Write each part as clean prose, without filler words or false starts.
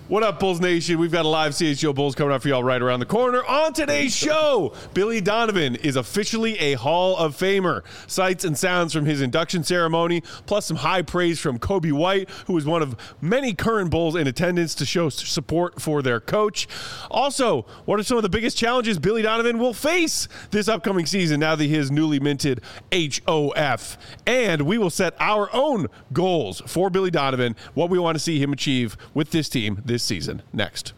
What up, Bulls Nation? We've got a live CHGO Bulls coming up for y'all right around the corner. On today's show, Billy Donovan is officially a Hall of Famer. Sights and sounds from his induction ceremony, plus some high praise from Kobe White, who is one of many current Bulls in attendance to show support for their coach. Also, what are some of the biggest challenges Billy Donovan will face this upcoming season now that he has newly minted HOF? And we will set our own goals for Billy Donovan, what we want to see him achieve with this team this season. Next.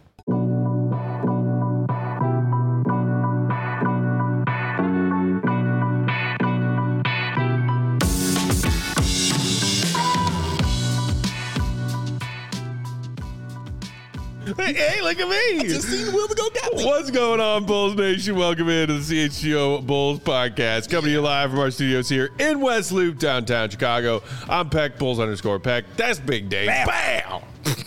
Hey, look at me. I just seen the wheel to go got me. What's going on, Bulls Nation? Welcome into the CHGO Bulls podcast. Coming to you live from our studios here in West Loop, downtown Chicago. I'm Peck, Bulls_Peck. That's Big Dave. Bam!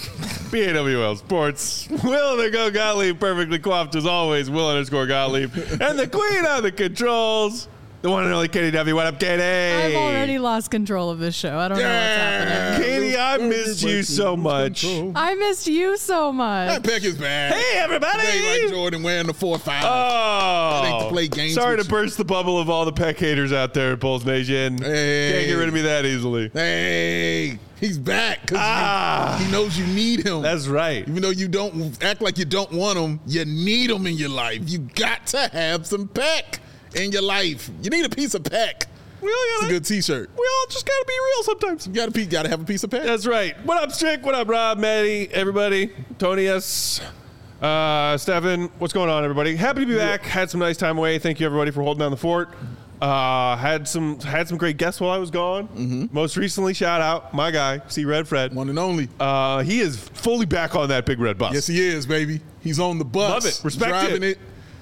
BAWL Sports. Will the Go Gottlieb, perfectly coiffed as always. Will_Gottlieb. And the queen of the controls, the one and only Katie W. What up, Katie? I've already lost control of this show. I don't know what's happening. Katie, I missed you so much. I missed you so much. That Peck is bad. Hey, everybody. They like Jordan wearing the 4-5. Oh, They to play games sorry with to burst the bubble of all the Peck haters out there, Bulls Nation. Hey. Can't get rid of me that easily. Hey, he's back because he knows you need him. That's right. Even though you don't act like you don't want him, you need him in your life. You got to have some Peck in your life. You need a piece of Peck. It's a good T-shirt. We all just gotta be real sometimes. You gotta have a piece of Peck. That's right. What up, Strick? What up, Rob, Maddie, everybody? Tony S. Stefan, what's going on, everybody? Happy to be back. Had some nice time away. Thank you, everybody, for holding down the fort. Had some great guests while I was gone. Mm-hmm. Most recently, shout out my guy, C Red Fred. One and only. He is fully back on that big red bus. Yes, he is, baby. He's on the bus. Love it. Respect driving it.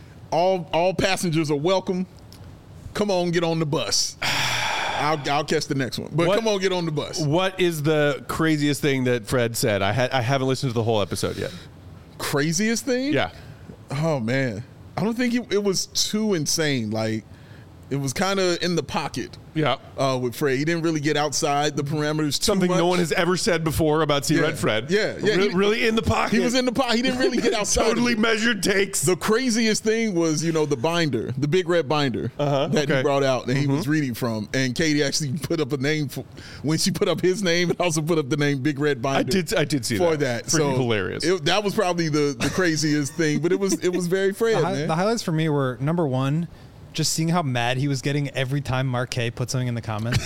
All passengers are welcome. Come on, get on the bus. I'll catch the next one. But come on, get on the bus. What is the craziest thing that Fred said? I haven't listened to the whole episode yet. Craziest thing? Yeah. Oh, man. I don't think it was too insane. Like, it was kind of in the pocket. Yeah. With Fred. He didn't really get outside the parameters too Something much. no one has ever said before about C Red Fred. Yeah. Really in the pocket. He was in the pocket. He didn't really get outside. Totally measured takes. The craziest thing was, the binder, the big red binder that he brought out and he was reading from. And Katie actually put up a name when she put up his name and also put up the name Big Red Binder. I did see for that. So pretty hilarious. That was probably the craziest thing, but it was very Fred, man. The highlights for me were, number one, just seeing how mad he was getting every time Mark K put something in the comments.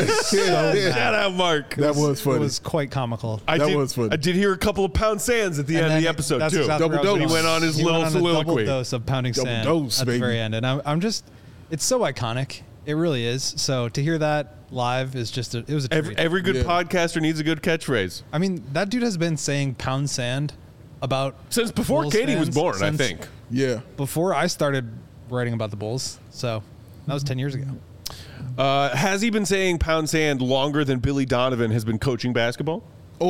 Shout out, Mark. That was funny. It was quite comical. I did hear a couple of pound sands at the end of the episode, that's too. Exactly Double dose. He went on his He little went on a soliloquy. double dose of pounding sand dose, at baby. the very end. And I'm just, it's so iconic. It really is. So to hear that live is just, it was a treat. Every good podcaster needs a good catchphrase. I mean, that dude has been saying pound sand about Since before Bulls Katie was fans born, I since think. Yeah. Before I started writing about the Bulls. So that was 10 years ago. Has he been saying pound sand longer than Billy Donovan has been coaching basketball?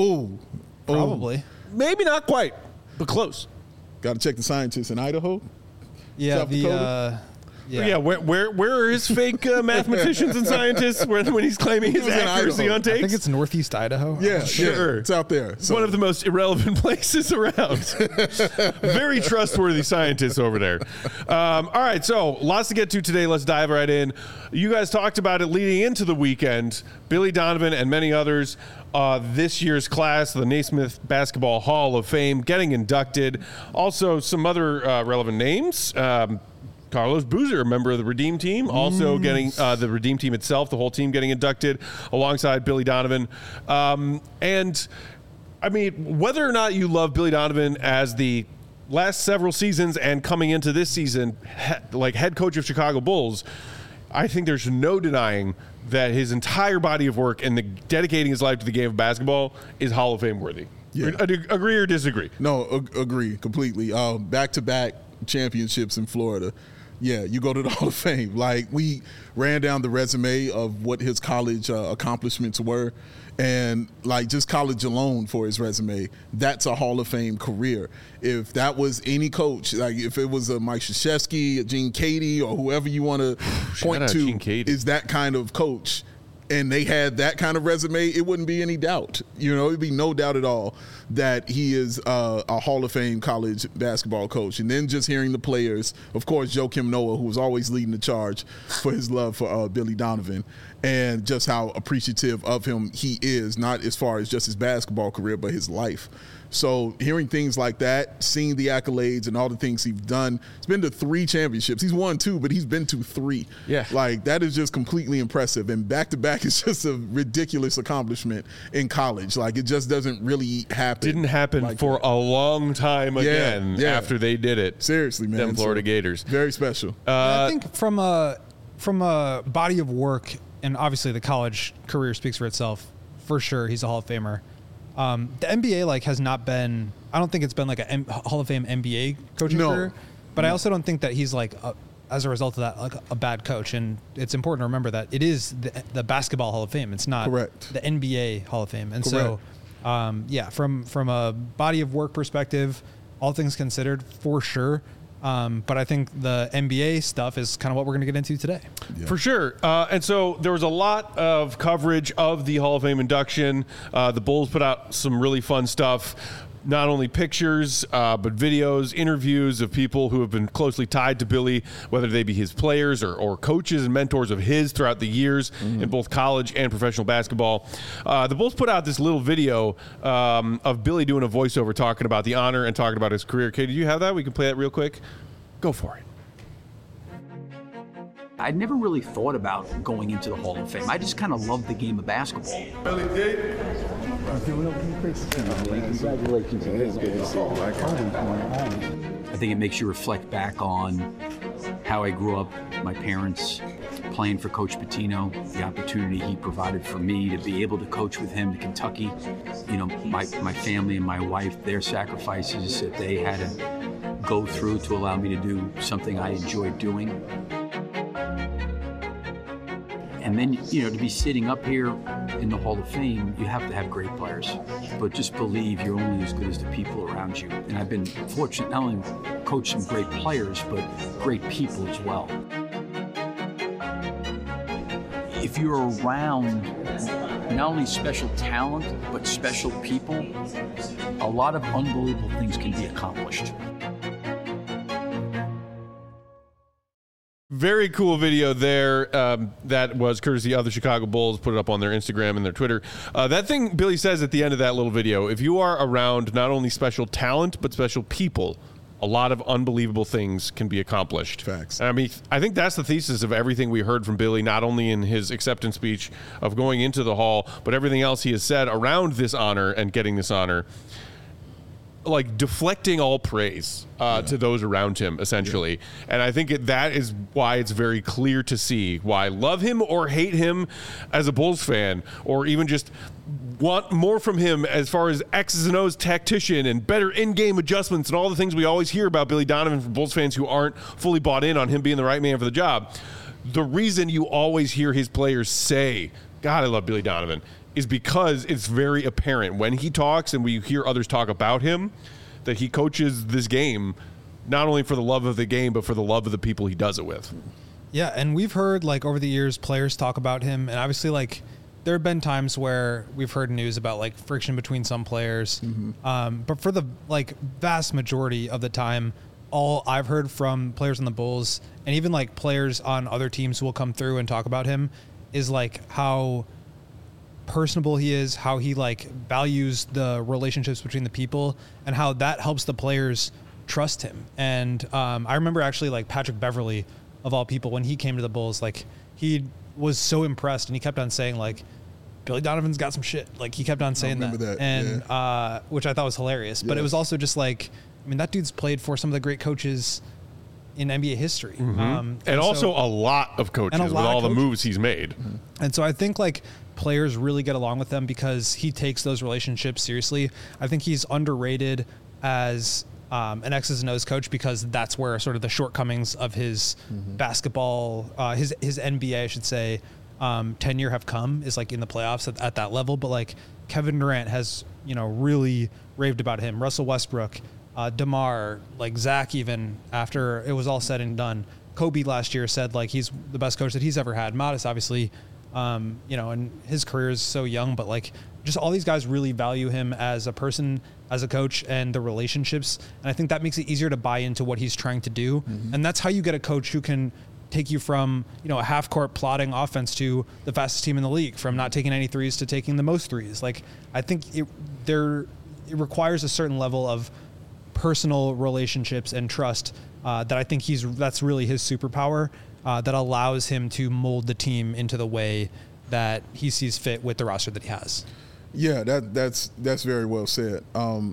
Probably. Maybe not quite, but close. Got to check the scientists in Idaho. Yeah, South Dakota? Yeah, where are his fake mathematicians and scientists when he's claiming his was in accuracy Idaho. on I takes? think it's Northeast Idaho. Yeah, Sure. yeah, it's out there. So. One of the most irrelevant places around. Very trustworthy scientists over there. All right, so lots to get to today. Let's dive right in. You guys talked about it leading into the weekend. Billy Donovan and many others, this year's class, the Naismith Basketball Hall of Fame, getting inducted. Also, some other relevant names. Carlos Boozer, a member of the Redeem Team, also getting the Redeem Team itself, the whole team getting inducted alongside Billy Donovan. And, I mean, whether or not you love Billy Donovan as the last several seasons and coming into this season, like head coach of Chicago Bulls, I think there's no denying that his entire body of work and dedicating his life to the game of basketball is Hall of Fame worthy. Yeah. Agree or disagree? No, agree completely. Back-to-back championships in Florida. Yeah, you go to the Hall of Fame. Like, we ran down the resume of what his college accomplishments were, and, like, just college alone for his resume, that's a Hall of Fame career. If that was any coach, like if it was a Mike Krzyzewski, a Gene Keady, or whoever you want to point to Gene Keady. is that kind of coach, and they had that kind of resume, it wouldn't be any doubt. It'd be no doubt at all that he is a Hall of Fame college basketball coach. And then just hearing the players, of course, Joakim Noah, who was always leading the charge for his love for Billy Donovan, and just how appreciative of him he is, not as far as just his basketball career, but his life. So hearing things like that, seeing the accolades and all the things he's done, he's been to 3 championships. He's won 2, but he's been to 3. Yeah. Like, that is just completely impressive. And back-to-back is just a ridiculous accomplishment in college. Like, it just doesn't really happen. Didn't happen like for that. a long time again after they did it. Seriously, man. Them Florida Gators. Very special. I think from a body of work, and obviously the college career speaks for itself, for sure he's a Hall of Famer. The NBA has not been. I don't think it's been like a Hall of Fame NBA coaching career, but I also don't think that he's as a result of that a bad coach. And it's important to remember that it is the Basketball Hall of Fame. It's not Correct. the NBA Hall of Fame. And Correct. so, from a body of work perspective, all things considered, for sure. But I think the NBA stuff is kind of what we're going to get into today. Yeah. For sure. And so there was a lot of coverage of the Hall of Fame induction. The Bulls put out some really fun stuff. Not only pictures, but videos, interviews of people who have been closely tied to Billy, whether they be his players or coaches and mentors of his throughout the years in both college and professional basketball. The Bulls put out this little video of Billy doing a voiceover talking about the honor and talking about his career. Kay, did you have that? We can play that real quick. Go for it. I'd never really thought about going into the Hall of Fame. I just kind of loved the game of basketball. Billy D. Congratulations. It's good to see you. I think it makes you reflect back on how I grew up, my parents, playing for Coach Pitino, the opportunity he provided for me to be able to coach with him to Kentucky. My family and my wife, their sacrifices that they had to go through to allow me to do something I enjoyed doing. And then, to be sitting up here in the Hall of Fame, you have to have great players. But just believe you're only as good as the people around you. And I've been fortunate not only to coach some great players, but great people as well. If you're around not only special talent, but special people, a lot of unbelievable things can be accomplished. Very cool video there. That was courtesy of the Chicago Bulls. Put it up on their Instagram and their Twitter. That thing Billy says at the end of that little video, if you are around not only special talent, but special people, a lot of unbelievable things can be accomplished. Facts. I mean, I think that's the thesis of everything we heard from Billy, not only in his acceptance speech of going into the Hall, but everything else he has said around this honor and getting this honor. Like deflecting all praise to those around him, essentially. And I think that is why it's very clear to see why love him or hate him as a Bulls fan, or even just want more from him as far as X's and O's tactician and better in-game adjustments and all the things we always hear about Billy Donovan from Bulls fans who aren't fully bought in on him being the right man for the job. The reason you always hear his players say, God, I love Billy Donovan, is because it's very apparent when he talks and we hear others talk about him that he coaches this game not only for the love of the game, but for the love of the people he does it with. Yeah, and we've heard over the years players talk about him, and obviously there have been times where we've heard news about friction between some players. Mm-hmm. But for the vast majority of the time, all I've heard from players on the Bulls and even players on other teams who will come through and talk about him is how personable he is, how he values the relationships between the people, and how that helps the players trust him. And I remember actually Patrick Beverley, of all people, when he came to the Bulls, he was so impressed and he kept on saying Billy Donovan's got some shit. He kept on saying that. And which I thought was hilarious. Yes. But it was also just that dude's played for some of the great coaches in NBA history. Mm-hmm. And also a lot of coaches with all the moves he's made. Mm-hmm. And so I think players really get along with them because he takes those relationships seriously. I think he's underrated as an X's and O's coach because that's where sort of the shortcomings of his basketball, his NBA, I should say, tenure have come is in the playoffs at that level. But Kevin Durant has, really raved about him. Russell Westbrook, DeMar, Zach, even after it was all said and done. Kobe last year said he's the best coach that he's ever had. Modest, obviously, and his career is so young, but like just all these guys really value him as a person, as a coach, and the relationships. And I think that makes it easier to buy into what he's trying to do. Mm-hmm. And that's how you get a coach who can take you from, a half-court plotting offense to the fastest team in the league, from not taking any threes to taking the most threes. Like, I think it requires a certain level of personal relationships and trust that I think that's really his superpower that allows him to mold the team into the way that he sees fit with the roster that he has. Yeah, that's very well said.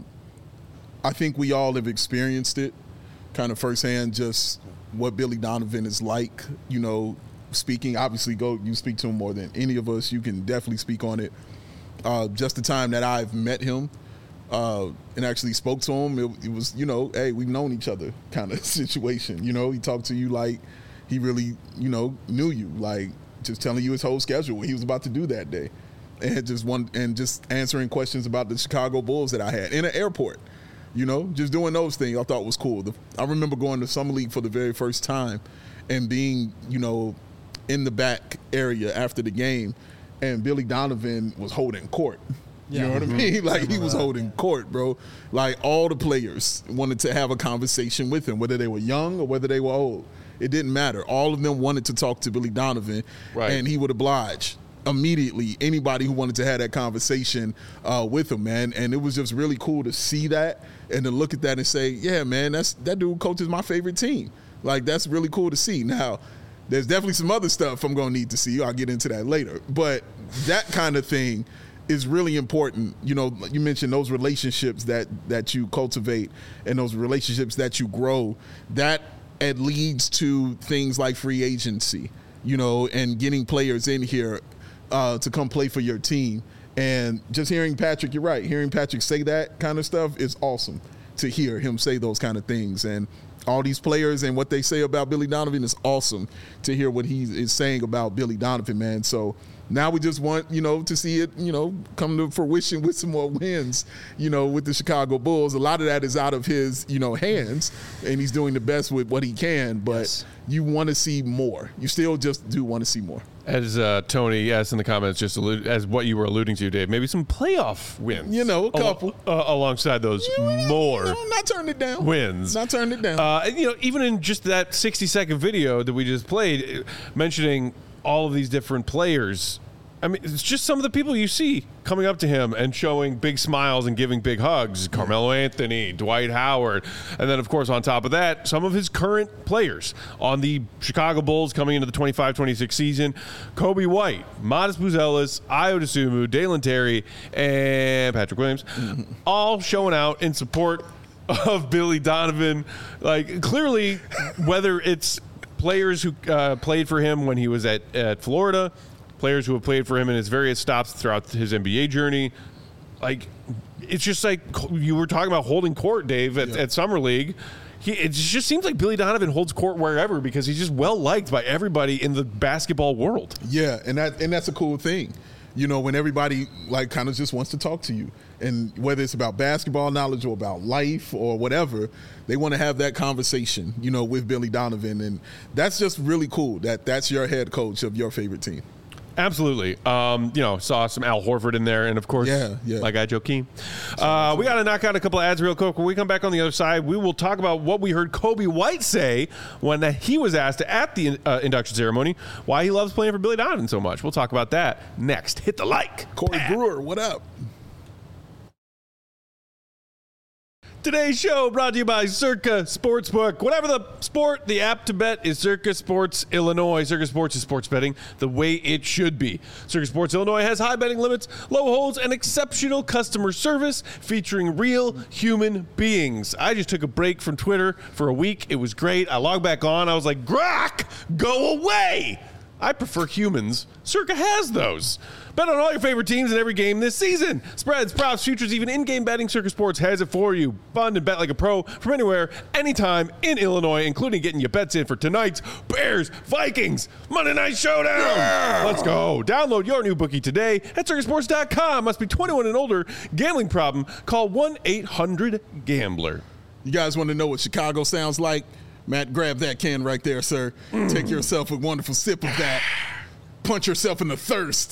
I think we all have experienced it kind of firsthand, just what Billy Donovan is like, speaking. Obviously, you speak to him more than any of us. You can definitely speak on it. Just the time that I've met him and actually spoke to him, it was, hey, we've known each other kind of situation. He talked to you like he really, knew you, like just telling you his whole schedule, what he was about to do that day. And just answering questions about the Chicago Bulls that I had in an airport, just doing those things I thought was cool. I remember going to Summer League for the very first time and being, in the back area after the game, and Billy Donovan was holding court. You know what I mean? Like, he was holding court, bro. Like, all the players wanted to have a conversation with him, whether they were young or whether they were old. It didn't matter. All of them wanted to talk to Billy Donovan, and he would oblige immediately anybody who wanted to have that conversation with him, man. And it was just really cool to see that and to look at that and say, yeah, man, that dude coaches my favorite team. Like, that's really cool to see. Now, there's definitely some other stuff I'm going to need to see. I'll get into that later. But that kind of thing is really important. You mentioned those relationships that you cultivate and those relationships that you grow. That it leads to things like free agency, and getting players in here to come play for your team. And just hearing Patrick, you're right, hearing Patrick say that kind of stuff is awesome to hear him say those kind of things. And all these players and what they say about Billy Donovan is awesome to hear what he is saying about Billy Donovan, man. So now we just want, to see it, come to fruition with some more wins, with the Chicago Bulls. A lot of that is out of his, hands, and he's doing the best with what he can, but you want to see more. You still just do want to see more. As Tony asked in the comments, just as what you were alluding to, Dave, maybe some playoff wins. A couple. Alongside those more not turning it down. Wins. Not turning it down. Even in just that 60-second video that we just played, mentioning all of these different players, I mean, it's just some of the people you see coming up to him and showing big smiles and giving big hugs. Carmelo Anthony, Dwight Howard. And then, of course, on top of that, some of his current players on the Chicago Bulls coming into the 25-26 season. Kobe White, Modest Buzelis, Ayo Dosunmu, Dalen Terry, and Patrick Williams, all showing out in support of Billy Donovan. Like, clearly, whether it's players who played for him when he was at Florida, players who have played for him in his various stops throughout his NBA journey. Like, it's just like you were talking about holding court, Dave, at Summer League. It just seems like Billy Donovan holds court wherever because he's just well-liked by everybody in the basketball world. Yeah, and that's a cool thing. When everybody, like, kind of just wants to talk to you. And whether it's about basketball knowledge or about life or whatever, they want to have that conversation, with Billy Donovan. And that's just really cool that's your head coach of your favorite team. Absolutely. Saw some Al Horford in there, and of course, my guy Joakim. We got to knock out a couple of ads real quick. When we come back on the other side, we will talk about what we heard Kobe White say when he was asked at the induction ceremony why he loves playing for Billy Donovan so much. We'll talk about that next. Hit the like. Corey Brewer, what up? Today's show brought to you by Circa Sportsbook. Whatever the sport, the app to bet is Circa Sports Illinois. Circa Sports is sports betting the way it should be. Circa Sports Illinois has high betting limits, low holds, and exceptional customer service featuring real human beings. I just took a break from Twitter for a week. It was great. I logged back on. I was like, Grok, go away. I prefer humans. Circa has those. Bet on all your favorite teams in every game this season. Spreads, props, futures, even in-game betting, Circa Sports has it for you. Fun and bet like a pro from anywhere, anytime in Illinois, including getting your bets in for tonight's Bears, Vikings, Monday Night Showdown. Yeah. Let's go. Download your new bookie today at circasports.com. Must be 21 and older. Gambling problem? Call 1-800-GAMBLER. You guys want to know what Chicago sounds like? Matt, grab that can right there, sir. Take yourself a wonderful sip of that. punch yourself in the thirst.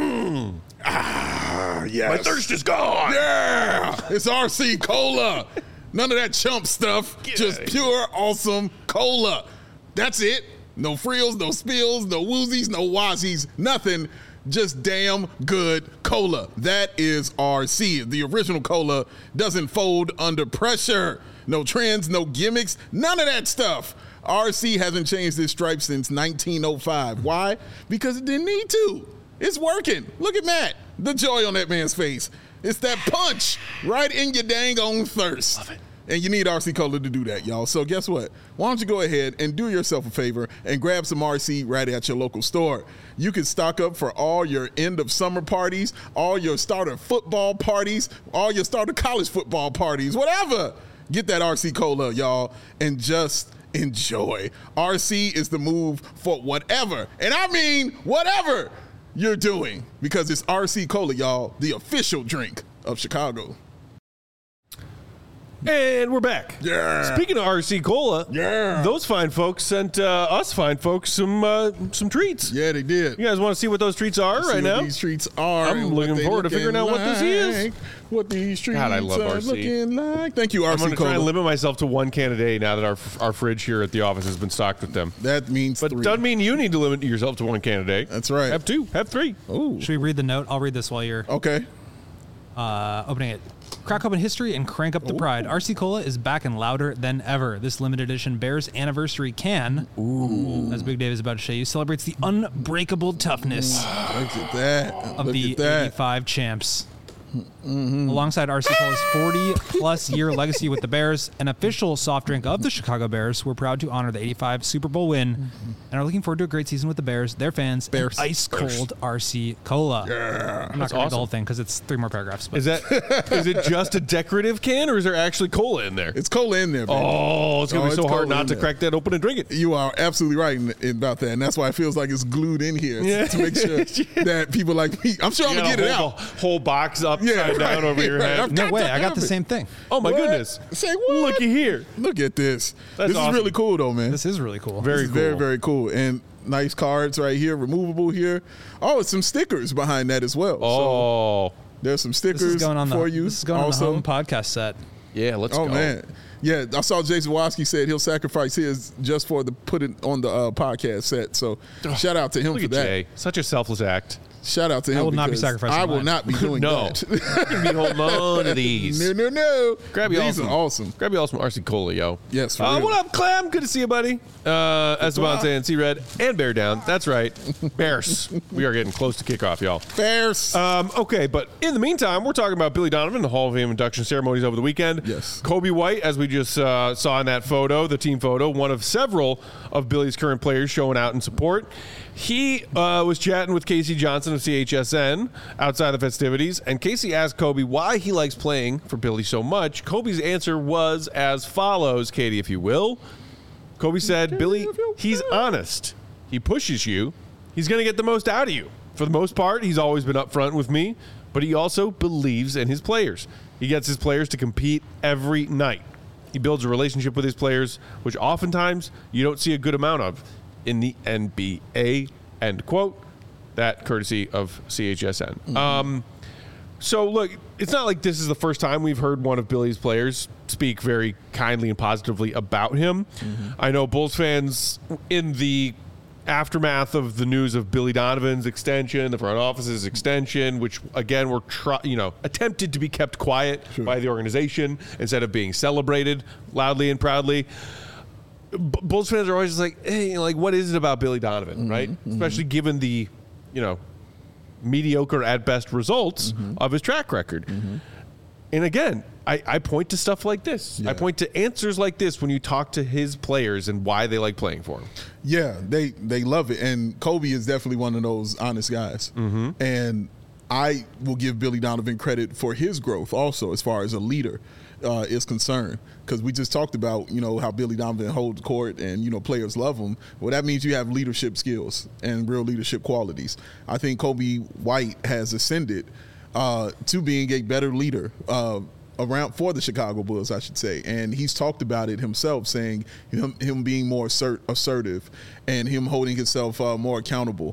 Yes. My thirst is gone. Yeah, it's RC Cola. None of that chump stuff. Just pure, awesome cola. That's it. No frills, no spills, no woozies, no wazies, nothing. Just damn good cola. That is RC. The original cola doesn't fold under pressure. No trends, no gimmicks, none of that stuff. RC hasn't changed its stripe since 1905. Why? Because it didn't need to. It's working. Look at Matt. The joy on that man's face. It's that punch right in your dang on thirst. Love it. And you need RC Cola to do that, y'all. So guess what? Why don't you go ahead and do yourself a favor and grab some RC right at your local store. You can stock up for all your end of summer parties, all your starter football parties, all your starter college football parties, whatever. Get that RC Cola, y'all, and just enjoy. RC is the move for whatever, and I mean whatever you're doing, because it's RC Cola, y'all, the official drink of Chicago. And we're back. Yeah. Speaking of RC Cola, those fine folks sent us fine folks some treats. Yeah, they did. You guys want to see what those treats are right now? These treats are. I'm looking forward to figuring out what this is. What these treats God, I love are RC. looking like. Thank you, RC I'm going to Cola. try and limit myself to one can a day now that our fridge here at the office has been stocked with them. That means But 3. doesn't mean you need to limit yourself to one can a day. That's right. Have 2, have 3. Ooh. Should we read the note? I'll read this while you're Okay. opening it. Crack open history and crank up the pride. RC Cola is back and louder than ever. This limited edition Bears anniversary can, as Big Dave is about to show you, celebrates the unbreakable toughness Look at that. of Look the at that. 85 champs. Alongside RC Cola's 40-plus year legacy with the Bears, an official soft drink of the Chicago Bears, we're proud to honor the 85 Super Bowl win and are looking forward to a great season with the Bears, their fans, and ice-cold RC Cola. I'm not going to read the whole thing because it's 3 more paragraphs. But Is it just a decorative can, or is there actually cola in there? It's cola in there, baby. Oh, it's going to be it's so hard cola not in to there. crack that open and drink it. You are absolutely right about that, and that's why it feels like it's glued in here to make sure that people like me. I'm sure I'm You gonna got get it a out. whole box upside down over your head. I've no got way, that I got the covered. same thing. Oh my What? goodness! Say what? Looky here. Look at this. That's This awesome. is really cool, though, man. This is really cool. Very This is cool. very, very cool. And nice cards right here, removable here. Oh, it's some stickers behind that as well. So Oh, there's some This stickers is going on for the you. this is going also. on the home podcast set. yeah. Let's Oh go. man, yeah. I saw Jason Watsky said he'll sacrifice his just for the put it on the podcast set. So shout out to him Look for at that. Jay. Such a selfless act. Shout out to him. will not be because sacrificing I will mine. not be doing No. that. You can be holding on to these. No. Grab you These all are awesome. Grab you all some RC Cola, yo. Yes, for real. What up, Clem? Good to see you, buddy. Esteban saying C-Red and Bear Down. That's right. Bears. We are getting close to kickoff, y'all. Bears. Okay, but in the meantime, we're talking about Billy Donovan, the Hall of Fame induction ceremonies over the weekend. Yes. Kobe White, as we just saw in that photo, the team photo, one of several of Billy's current players showing out in support. He was chatting with Casey Johnson of CHSN outside the festivities, and Casey asked Kobe why he likes playing for Billy so much. Kobe's answer was as follows, Katie, if you will. Kobe said, Billy, he's honest. He pushes you. He's going to get the most out of you. For the most part, he's always been upfront with me, but he also believes in his players. He gets his players to compete every night. He builds a relationship with his players, which oftentimes you don't see a good amount of in the NBA, end quote. That courtesy of CHSN. So, look, it's not like this is the first time we've heard one of Billy's players speak very kindly and positively about him. I know Bulls fans in the aftermath of the news of Billy Donovan's extension, the front office's extension, which, again, were attempted to be kept quiet by the organization instead of being celebrated loudly and proudly. Bulls fans are always just like, hey, what is it about Billy Donovan, right? Especially given the, mediocre at best results of his track record. And again, I point to stuff like this. Yeah. I point to answers like this when you talk to his players and why they like playing for him. Yeah, they love it. And Kobe is definitely one of those honest guys. And I will give Billy Donovan credit for his growth also as far as a leader is concerned. Because we just talked about, how Billy Donovan holds court and, players love him. Well, that means you have leadership skills and real leadership qualities. I think Kobe White has ascended to being a better leader around for the Chicago Bulls, I should say. And he's talked about it himself, saying him being more assertive and him holding himself more accountable.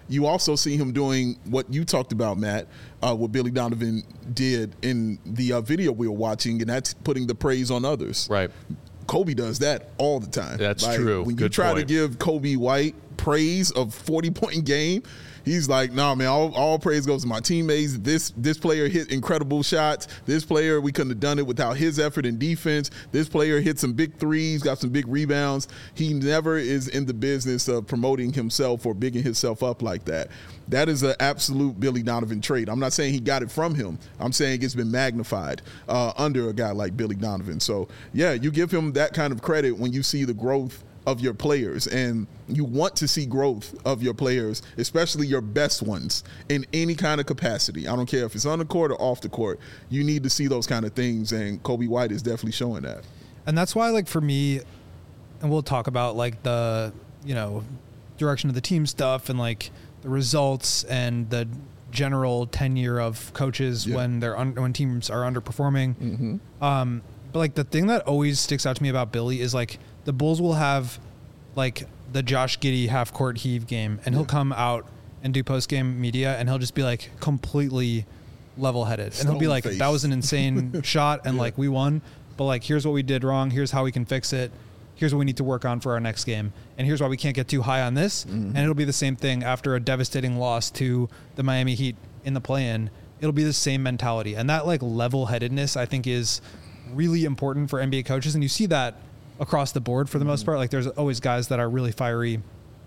you also see him doing what you talked about, Matt, what Billy Donovan did in the video we were watching, and that's putting the praise on others. Right. Kobe does that all the time. That's true. When you try to give Kobe White praise of 40-point game, he's like, nah, man, all praise goes to my teammates. This player hit incredible shots. This player, we couldn't have done it without his effort in defense. This player hit some big threes, got some big rebounds. He never is in the business of promoting himself or bigging himself up like that. That is an absolute Billy Donovan trait. I'm not saying he got it from him. I'm saying it's been magnified under a guy like Billy Donovan. So, yeah, you give him that kind of credit when you see the growth of your players, and you want to see growth of your players, especially your best ones, in any kind of capacity. I don't care if it's on the court or off the court. You need to see those kind of things, and Kobe White is definitely showing that. And that's why, like, for me, and we'll talk about, like, the, you know, direction of the team stuff and, like, the results and the general tenure of coaches when when teams are underperforming. But, like, the thing that always sticks out to me about Billy is, like, the Bulls will have, like, the Josh Giddey half-court heave game, and he'll come out and do post-game media, and he'll just be, like, completely level-headed. And he'll be like, that was an insane shot, and, like, we won. But, like, here's what we did wrong. Here's how we can fix it. Here's what we need to work on for our next game. And here's why we can't get too high on this. And it'll be the same thing after a devastating loss to the Miami Heat in the play-in. It'll be the same mentality. And that, like, level-headedness, I think, is really important for NBA coaches. And you see that across the board for the most part. Like, there's always guys that are really fiery,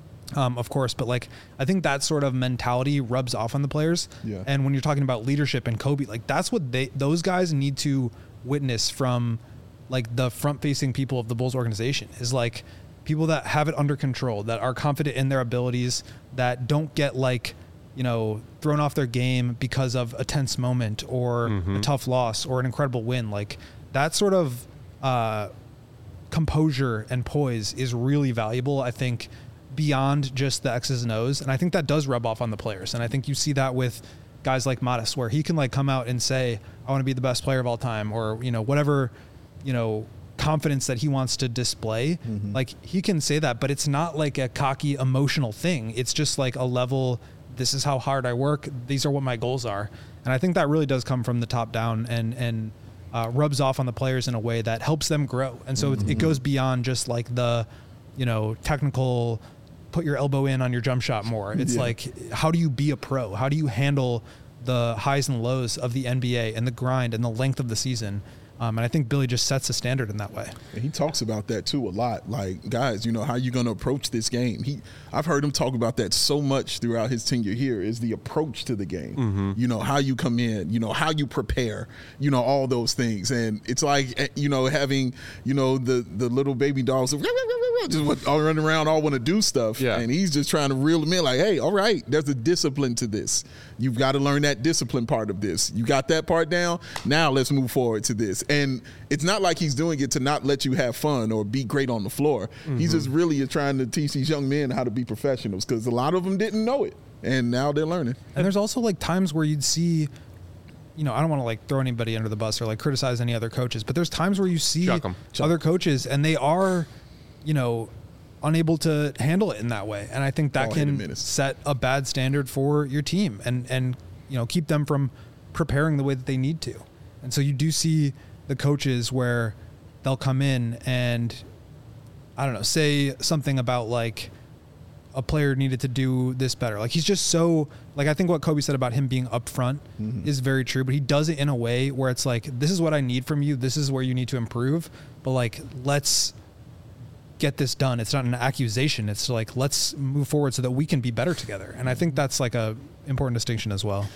of course, but, like, I think that sort of mentality rubs off on the players. Yeah. And when you're talking about leadership and Kobe, like, that's what those guys need to witness from, like, the front-facing people of the Bulls organization, is, like, people that have it under control, that are confident in their abilities, that don't get, like, you know, thrown off their game because of a tense moment or a tough loss or an incredible win. Like, that sort of composure and poise is really valuable, I think, beyond just the X's and O's. And I think that does rub off on the players. And I think you see that with guys like Modest, where he can, like, come out and say, I want to be the best player of all time, or, you know, whatever, you know, confidence that he wants to display. Like, he can say that, but it's not like a cocky emotional thing. It's just like a level, this is how hard I work. These are what my goals are. And I think that really does come from the top down and rubs off on the players in a way that helps them grow. And so it goes beyond just, like, the, you know, technical, put your elbow in on your jump shot more. It's like, how do you be a pro? How do you handle the highs and lows of the NBA and the grind and the length of the season? And I think Billy just sets the standard in that way. And he talks about that too a lot. Like, guys, you know, how are you going to approach this game? I've heard him talk about that so much throughout his tenure here, is the approach to the game. You know, how you come in, you know, how you prepare, you know, all those things. And it's like, you know, having, you know, the little baby dogs just all running around, all want to do stuff. Yeah. And he's just trying to reel them in, like, hey, all right, there's a discipline to this. You've got to learn that discipline part of this. You got that part down. Now let's move forward to this. And it's not like he's doing it to not let you have fun or be great on the floor. He's just really trying to teach these young men how to be professionals, because a lot of them didn't know it, and now they're learning. And there's also, like, times where you'd see, you know, I don't want to, like, throw anybody under the bus or, like, criticize any other coaches, but there's times where you see other coaches and they are, you know, unable to handle it in that way. And I think that can set a bad standard for your team and, you know, keep them from preparing the way that they need to. And so you do see the coaches where they'll come in and, I don't know, say something about, like, a player needed to do this better. Like, he's just so, like, I think what Kobe said about him being upfront is very true, but he does it in a way where it's like, this is what I need from you. This is where you need to improve. But, like, let's get this done. It's not an accusation. It's like, let's move forward so that we can be better together. And I think that's, like, a important distinction as well.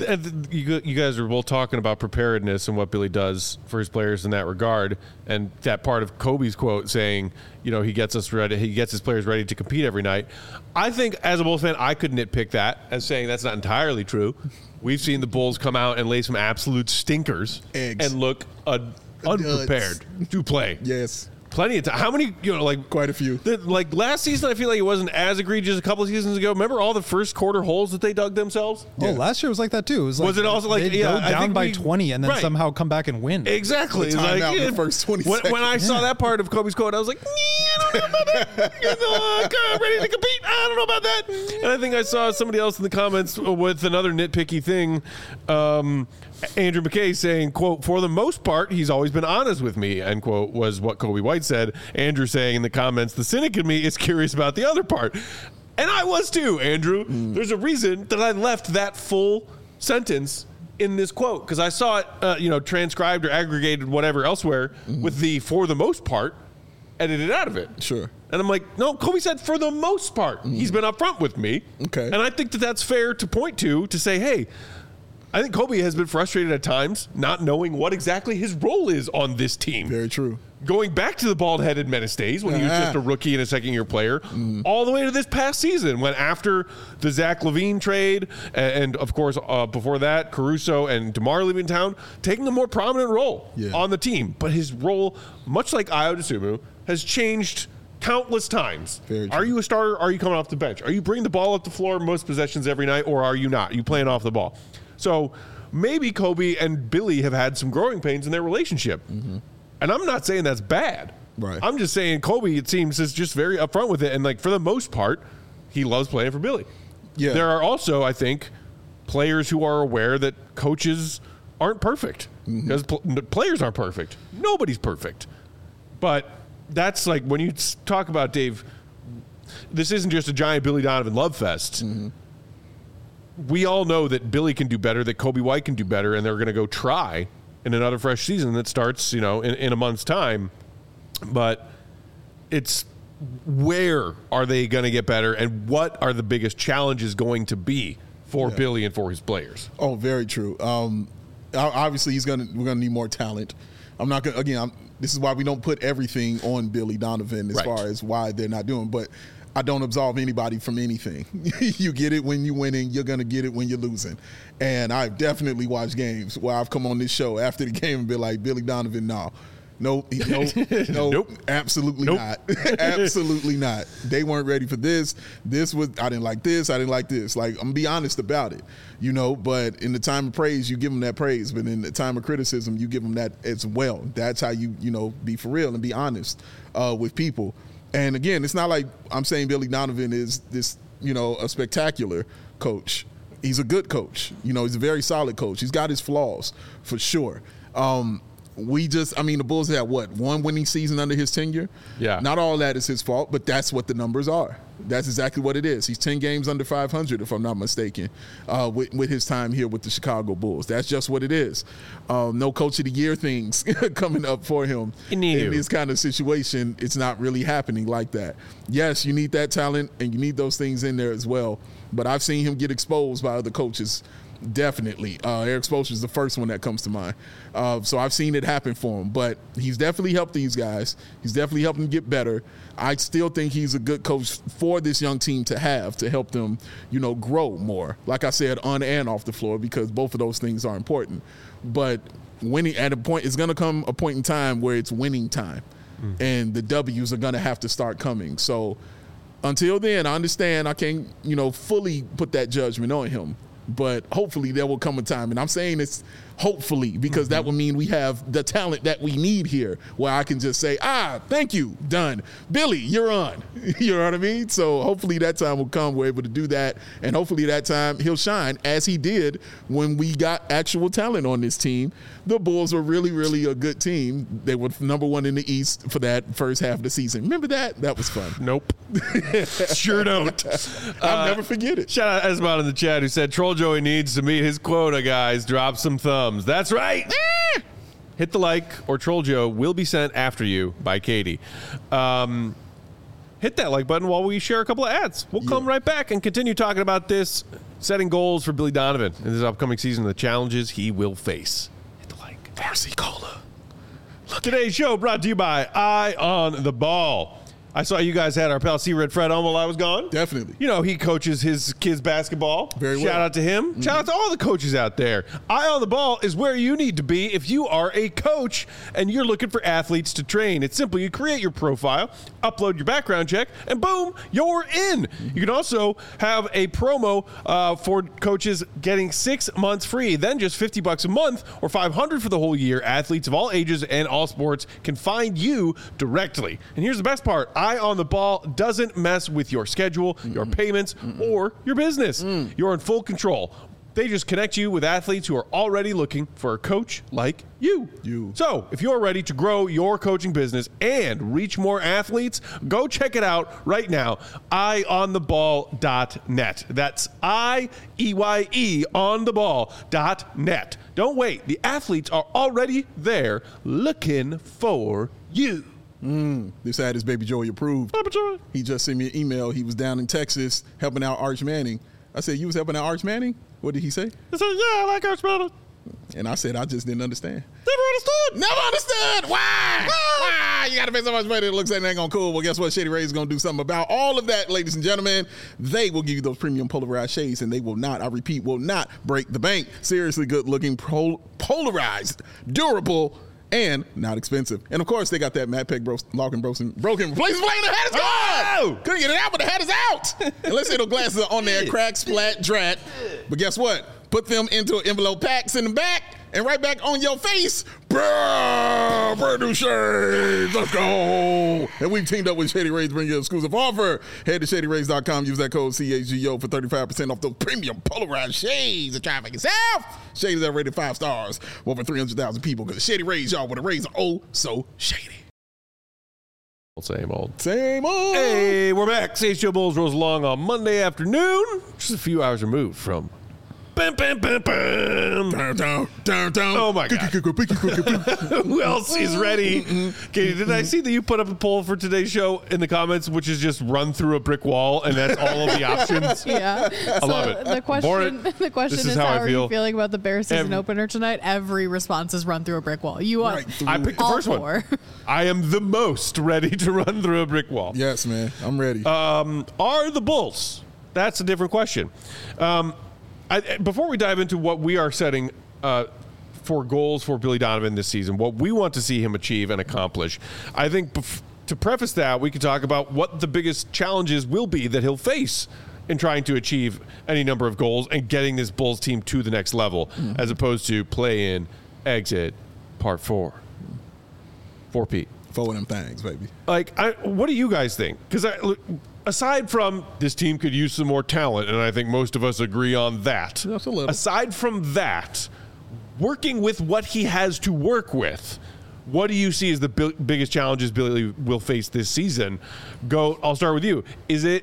You guys are both talking about preparedness and what Billy does for his players in that regard, and that part of Kobe's quote saying, you know, he gets us ready, he gets his players ready to compete every night. I think as a Bulls fan, I could nitpick that as saying that's not entirely true. We've seen the Bulls come out and lay some absolute stinkers and look unprepared to play. Yes. Plenty of time. How many, like Quite a few. Like last season, I feel like it wasn't as egregious a couple of seasons ago. Remember all the first quarter holes that they dug themselves? Oh, last year was like that too. It was it also like, they'd yeah, go I down think by 20 and then right. somehow come back and win. Exactly. The It's timeout in the first 20 when seconds. I saw that part of Kobe's quote, I was like, I don't know about that. Ready to compete? I don't know about that. And I think I saw somebody else in the comments with another nitpicky thing. Andrew McKay saying, quote, for the most part, he's always been honest with me, end quote, was what Kobe White said. Andrew saying in the comments, the cynic in me is curious about the other part. And I was too, Andrew. There's a reason that I left that full sentence in this quote, because I saw it, transcribed or aggregated whatever elsewhere with the for the most part edited out of it. Sure. And I'm like, no, Kobe said for the most part. He's been upfront with me. Okay. And I think that that's fair to point to say, hey, I think Kobe has been frustrated at times not knowing what exactly his role is on this team. Very true. Going back to the bald-headed Menace days when he was just a rookie and a second-year player, all the way to this past season when after the Zach LaVine trade and of course, before that, Caruso and DeMar leaving town, taking a more prominent role on the team. But his role, much like Ayo Dosunmu, has changed countless times. Are you a starter? Are you coming off the bench? Are you bringing the ball up the floor most possessions every night, or are you not? Are you playing off the ball? So maybe Kobe and Billy have had some growing pains in their relationship. And I'm not saying that's bad. Right. I'm just saying Kobe, it seems, is just very upfront with it. And, like, for the most part, he loves playing for Billy. Yeah. There are also, I think, players who are aware that coaches aren't perfect. Because players aren't perfect. Nobody's perfect. But that's like when you talk about, Dave, this isn't just a giant Billy Donovan love fest. We all know that Billy can do better, that Kobe White can do better, and they're going to go try in another fresh season that starts, in a month's time. But it's where are they going to get better, and what are the biggest challenges going to be for Billy and for his players? Oh, very true. Obviously, we're gonna need more talent. I'm not gonna this is why we don't put everything on Billy Donovan as far as why they're not doing. But I don't absolve anybody from anything. You get it when you're winning. You're going to get it when you're losing. And I've definitely watched games where I've come on this show after the game and been like, Billy Donovan, nope, absolutely not. Absolutely not. They weren't ready for this. I didn't like this. I didn't like this. Like, I'm going to be honest about it, but in the time of praise, you give them that praise. But in the time of criticism, you give them that as well. That's how you be for real and be honest with people. And again, it's not like I'm saying Billy Donovan is this, a spectacular coach. He's a good coach. He's a very solid coach. He's got his flaws for sure. The Bulls had one winning season under his tenure. Yeah. Not all that is his fault, but that's what the numbers are. That's exactly what it is. He's 10 games under 500, if I'm not mistaken, with his time here with the Chicago Bulls. That's just what it is. No Coach of the Year things coming up for him in this kind of situation. It's not really happening like that. Yes, you need that talent, and you need those things in there as well. But I've seen him get exposed by other coaches. Definitely. Eric Spoelstra is the first one that comes to mind. So I've seen it happen for him. But he's definitely helped these guys. He's definitely helped them get better. I still think he's a good coach for this young team to help them, grow more. Like I said, on and off the floor, because both of those things are important. But winning at a point, it's going to come a point in time where it's winning time. And the W's are going to have to start coming. So until then, I understand I can't, fully put that judgment on him. But hopefully there will come a time, and I'm saying it's hopefully because that would mean we have the talent that we need here where I can just say, thank you, done. Billy, you're on. You know what I mean? So hopefully that time will come. We're able to do that, and hopefully that time he'll shine as he did when we got actual talent on this team. The Bulls were really, really a good team. They were number one in the East for that first half of the season. Remember that? That was fun. Nope. Sure don't. I'll never forget it. Shout out Esmond in the chat who said, Troll Joey needs to meet his quota, guys. Drop some thumbs. That's right. Hit the like, or Troll Joe will be sent after you by Katie. Hit that like button while we share a couple of ads. We'll come right back and continue talking about this, setting goals for Billy Donovan in this upcoming season, the challenges he will face. Hit the like. Varsity Cola. Today's show brought to you by Eye on the Ball. I saw you guys had our pal C-Red Fred on while I was gone. Definitely. You know, he coaches his kids basketball. Very well. Shout out to him. Mm-hmm. Shout out to all the coaches out there. Eye on the Ball is where you need to be if you are a coach and you're looking for athletes to train. It's simple. You create your profile, upload your background check, and boom, you're in. You can also have a promo for coaches getting 6 months free, then just $50 a month or $500 for the whole year. Athletes of all ages and all sports can find you directly. And here's the best part. Eye on the Ball doesn't mess with your schedule, your payments, or your business. You're in full control. They just connect you with athletes who are already looking for a coach like you. So if you're ready to grow your coaching business and reach more athletes, go check it out right now. EyeOnTheBall.net. That's IEYE ontheball.net. Don't wait. The athletes are already there looking for you. This ad is Baby Joey approved. He just sent me an email. He was down in Texas helping out Arch Manning. I said, you was helping out Arch Manning? What did he say? He said, yeah, I like Arch Manning. And I said, I just didn't understand. Never understood. Never understood. Why? Why? You got to pay so much money. It looks like it ain't going to cool. Well, guess what? Shady Rays is going to do something about all of that, ladies and gentlemen. They will give you those premium polarized shades, and they will not, I repeat, will not break the bank. Seriously good-looking, polarized, durable, and not expensive. And, of course, they got that Matt Peck broken replacement flame. The hat is gone! Couldn't get it out, but the hat is out! Unless those glasses are on there, crack, splat, drat. But guess what? Put them into an envelope pack, send them back, and right back on your face. Brand new shades. Let's go. And we've teamed up with Shady Rays to bring you an exclusive offer. Head to ShadyRays.com. Use that code CHGO for 35% off those premium polarized shades. And try it for yourself. Shades are rated 5 stars. Over 300,000 people. Because Shady Rays, y'all, with the rays are oh so shady. Same old. Hey, we're back. CHGO Bulls rolls along on Monday afternoon. Just a few hours removed from bam, bam, bam, bam. Oh, my God. Who else is ready? Okay, did I see that you put up a poll for today's show in the comments, which is just run through a brick wall, and that's all of the options? Yeah. I love it. The question is how are you feeling about the Bears season opener tonight? Every response is run through a brick wall. You are I picked the first one. I am the most ready to run through a brick wall. Yes, man. I'm ready. Are the Bulls? That's a different question. Before we dive into what we are setting for goals for Billy Donovan this season, what we want to see him achieve and accomplish, I think to preface that, we could talk about what the biggest challenges will be that he'll face in trying to achieve any number of goals and getting this Bulls team to the next level, as opposed to play in, exit, part 4. 4P. 4 of them things, baby. What do you guys think? Because aside from this team could use some more talent, and I think most of us agree on that. That's a little. Aside from that, working with what he has to work with, what do you see as the biggest challenges Billy will face this season? I'll start with you. Is it,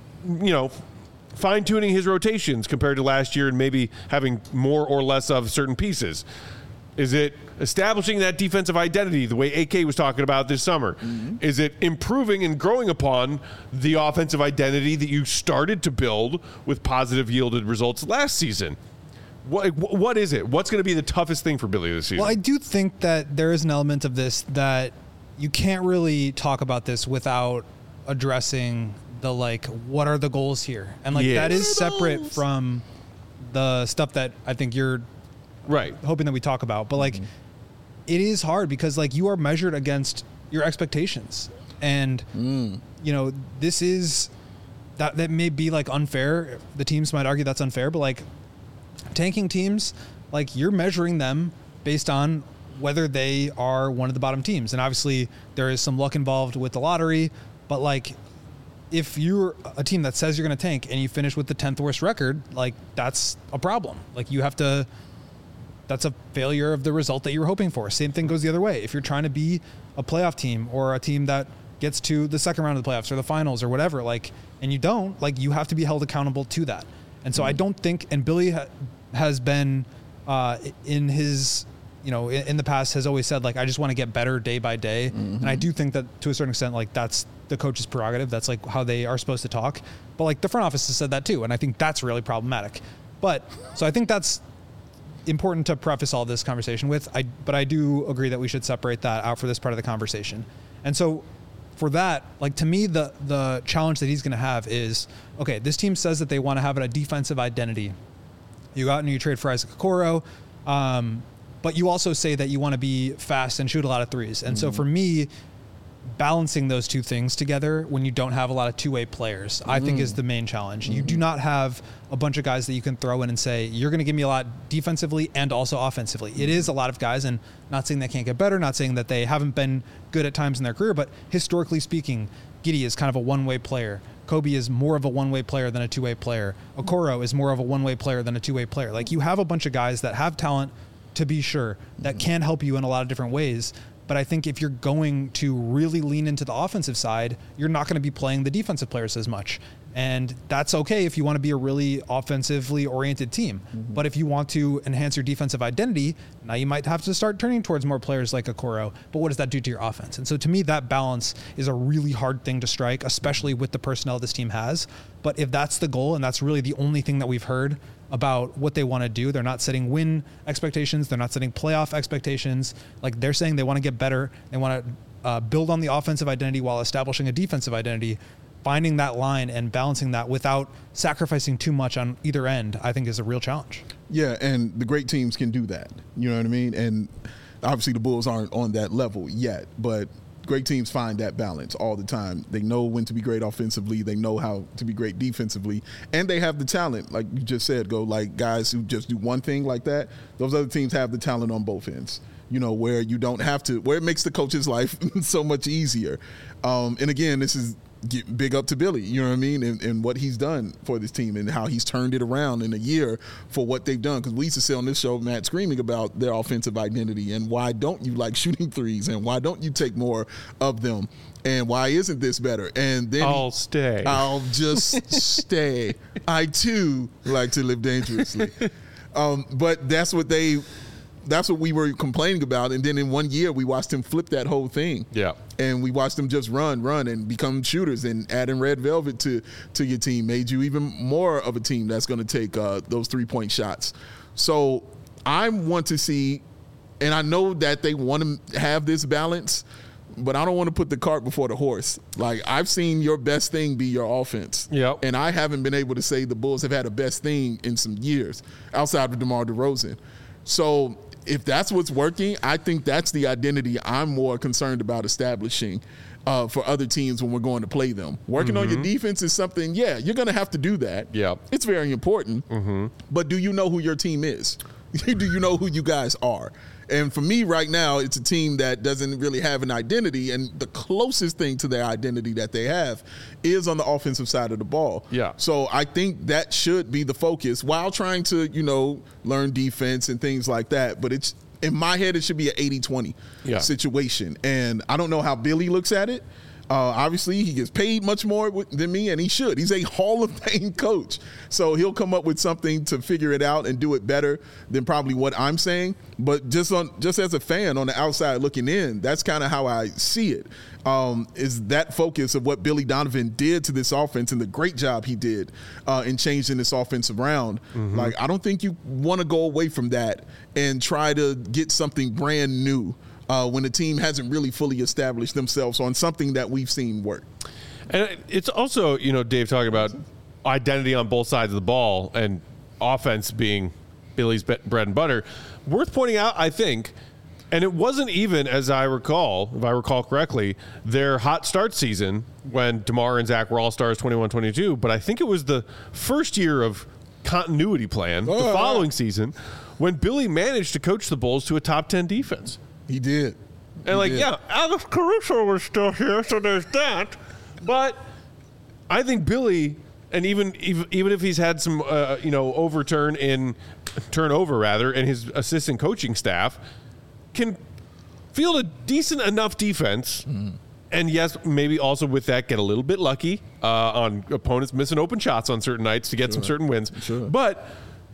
fine-tuning his rotations compared to last year and maybe having more or less of certain pieces? Is it establishing that defensive identity the way AK was talking about this summer? Is it improving and growing upon the offensive identity that you started to build with positive yielded results last season? What is it? What's going to be the toughest thing for Billy this season? Well, I do think that there is an element of this that you can't really talk about this without addressing the, what are the goals here? And, that is separate from the stuff that I think you're hoping that we talk about. But, it is hard because, you are measured against your expectations. And, this is that may be, unfair. The teams might argue that's unfair, but, tanking teams, you're measuring them based on whether they are one of the bottom teams. And obviously there is some luck involved with the lottery, but if you're a team that says you're going to tank and you finish with the 10th worst record, that's a problem. That's a failure of the result that you were hoping for. Same thing goes the other way. If you're trying to be a playoff team or a team that gets to the second round of the playoffs or the finals or whatever, and you don't, you have to be held accountable to that. And so I don't think, and Billy has been in his, in the past has always said, I just want to get better day by day. And I do think that to a certain extent, that's the coach's prerogative. That's how they are supposed to talk. But the front office has said that too. And I think that's really problematic. So I think that's important to preface all this conversation with. But I do agree that we should separate that out for this part of the conversation. And so for that, like, to me, the challenge that he's going to have is, okay, this team says that they want to have a defensive identity. You go out and you trade for Isaac Okoro, but you also say that you want to be fast and shoot a lot of threes. And so for me, balancing those two things together when you don't have a lot of two-way players, I think is the main challenge. You do not have a bunch of guys that you can throw in and say, you're going to give me a lot defensively and also offensively. It is a lot of guys, and not saying they can't get better, not saying that they haven't been good at times in their career, but historically speaking, Giddey is kind of a one-way player. Kobe is more of a one-way player than a two-way player. Okoro is more of a one-way player than a two-way player. Like, you have a bunch of guys that have talent, to be sure, that can help you in a lot of different ways. But I think if you're going to really lean into the offensive side, you're not going to be playing the defensive players as much. And that's okay if you want to be a really offensively oriented team. But if you want to enhance your defensive identity, now you might have to start turning towards more players like Okoro. But what does that do to your offense? And so to me, that balance is a really hard thing to strike, especially with the personnel this team has. But if that's the goal, and that's really the only thing that we've heard about what they want to do, they're not setting win expectations, they're not setting playoff expectations. Like, they're saying they want to get better, they want to build on the offensive identity while establishing a defensive identity. Finding that line and balancing that without sacrificing too much on either end, I think, is a real challenge. Yeah, and the great teams can do that. You know what I mean? And obviously the Bulls aren't on that level yet, but great teams find that balance all the time. They know when to be great offensively. They know how to be great defensively. And they have the talent, like you just said, like guys who just do one thing like that. Those other teams have the talent on both ends, you know, where you don't have to, where it makes the coach's life so much easier. And again, this is big up to Billy, you know what I mean, and what he's done for this team and how he's turned it around in a year for what they've done. Because we used to sit on this show, Matt, screaming about their offensive identity and why don't you like shooting threes and why don't you take more of them and why isn't this better? And then I'll just stay. I too like to live dangerously. But that's what we were complaining about. And then in 1 year, we watched him flip that whole thing. Yeah. And we watched them just run and become shooters, and adding Red Velvet to your team made you even more of a team that's going to take those 3-point shots. So I want to see, and I know that they want to have this balance, but I don't want to put the cart before the horse. Like, I've seen your best thing be your offense. Yep. And I haven't been able to say the Bulls have had a best thing in some years outside of DeMar DeRozan. So if that's what's working, I think that's the identity I'm more concerned about establishing for other teams when we're going to play them. Working on your defense is something, yeah, you're going to have to do that. Yeah. It's very important. But do you know who your team is? Do you know who you guys are? And for me right now, it's a team that doesn't really have an identity, and the closest thing to their identity that they have is on the offensive side of the ball. Yeah. So I think that should be the focus while trying to, you know, learn defense and things like that. But it's, in my head, it should be an 80-20 situation. And I don't know how Billy looks at it. Obviously, he gets paid much more than me, and he should. He's a Hall of Fame coach. So he'll come up with something to figure it out and do it better than probably what I'm saying. But just as a fan on the outside looking in, that's kind of how I see it, is that focus of what Billy Donovan did to this offense and the great job he did in changing this offense around. Like, I don't think you want to go away from that and try to get something brand new when the team hasn't really fully established themselves on something that we've seen work. And it's also, you know, Dave talking about identity on both sides of the ball and offense being Billy's bread and butter. Worth pointing out, I think, and it wasn't even, as I recall, if I recall correctly, their hot start season when DeMar and Zach were all-stars 21-22, but I think it was the first year of continuity plan, the following season, when Billy managed to coach the Bulls to a top 10 defense. He did. And Alex Caruso was still here, so there's that. But I think Billy, and even if he's had some, turnover in his assistant coaching staff, can field a decent enough defense. And yes, maybe also with that get a little bit lucky on opponents missing open shots on certain nights to get some certain wins. But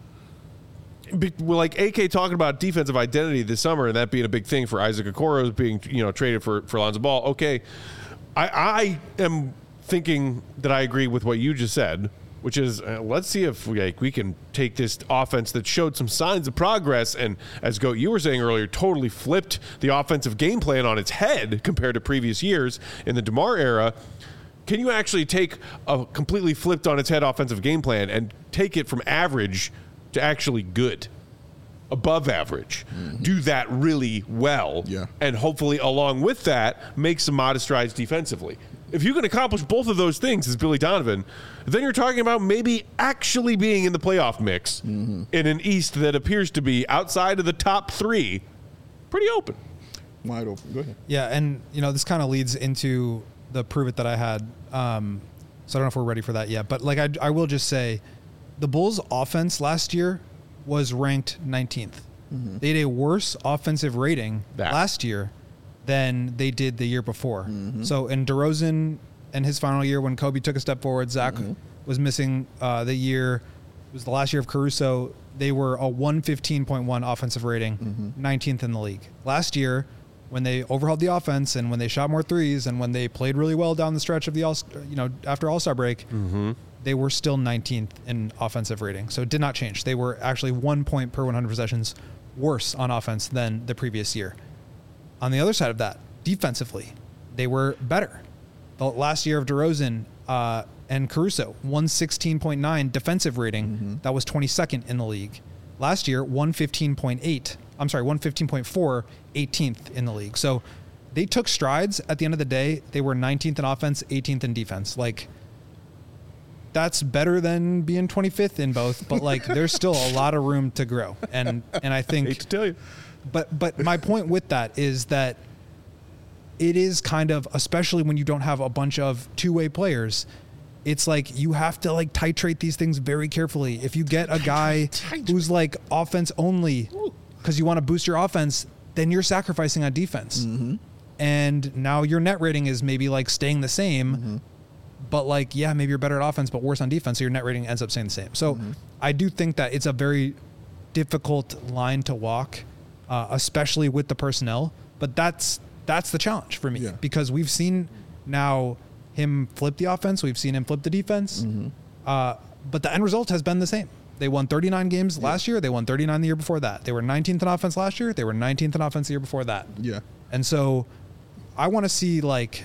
like AK talking about defensive identity this summer and that being a big thing for Isaac Okoro being traded for Lonzo Ball. Okay, I am thinking that I agree with what you just said, which is let's see if we can take this offense that showed some signs of progress and, as Goat, you were saying earlier, totally flipped the offensive game plan on its head compared to previous years in the DeMar era. Can you actually take a completely flipped on its head offensive game plan and take it from average to actually good, above average, do that really well, and hopefully along with that make some modest strides defensively? If you can accomplish both of those things as Billy Donovan, then you're talking about maybe actually being in the playoff mix in an East that appears to be, outside of the top 3, pretty open. Wide open. Go ahead. Yeah, and this kind of leads into the prove it that I had. So I don't know if we're ready for that yet, but I will just say the Bulls offense last year was ranked 19th. They had a worse offensive rating last year than they did the year before. So in DeRozan and his final year, when Kobe took a step forward, Zach was missing the year. It was the last year of Caruso. They were a 115.1 offensive rating, 19th in the league. Last year, when they overhauled the offense and when they shot more threes and when they played really well down the stretch of the after All-Star break, they were still 19th in offensive rating. So it did not change. They were actually 1 point per 100 possessions worse on offense than the previous year. On the other side of that, defensively, they were better. The last year of DeRozan and Caruso, 116.9 defensive rating. That was 22nd in the league. Last year, 115.4, 18th in the league. So they took strides. At the end of the day, they were 19th in offense, 18th in defense. That's better than being 25th in both, but there's still a lot of room to grow. And I think, hate to tell you, but my point with that is that it is kind of, especially when you don't have a bunch of two-way players, it's you have to titrate these things very carefully. If you get a guy who's offense only because you want to boost your offense, then you're sacrificing on defense. And now your net rating is maybe staying the same, but maybe you're better at offense, but worse on defense. So your net rating ends up staying the same. So I do think that it's a very difficult line to walk, especially with the personnel, but that's the challenge for me because we've seen now him flip the offense. We've seen him flip the defense, but the end result has been the same. They won 39 games last year. They won 39 the year before that. They were 19th in offense last year. They were 19th in offense the year before that. And so I want to see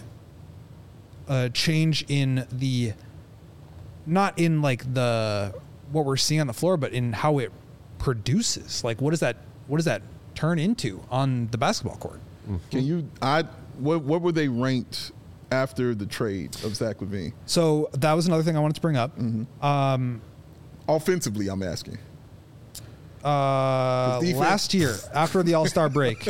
a change in the, not in the, what we're seeing on the floor, but in how it produces. What does that turn into on the basketball court? What were they ranked after the trade of Zach LaVine? So that was another thing I wanted to bring up. Offensively, I'm asking. Last year, after the All-Star break,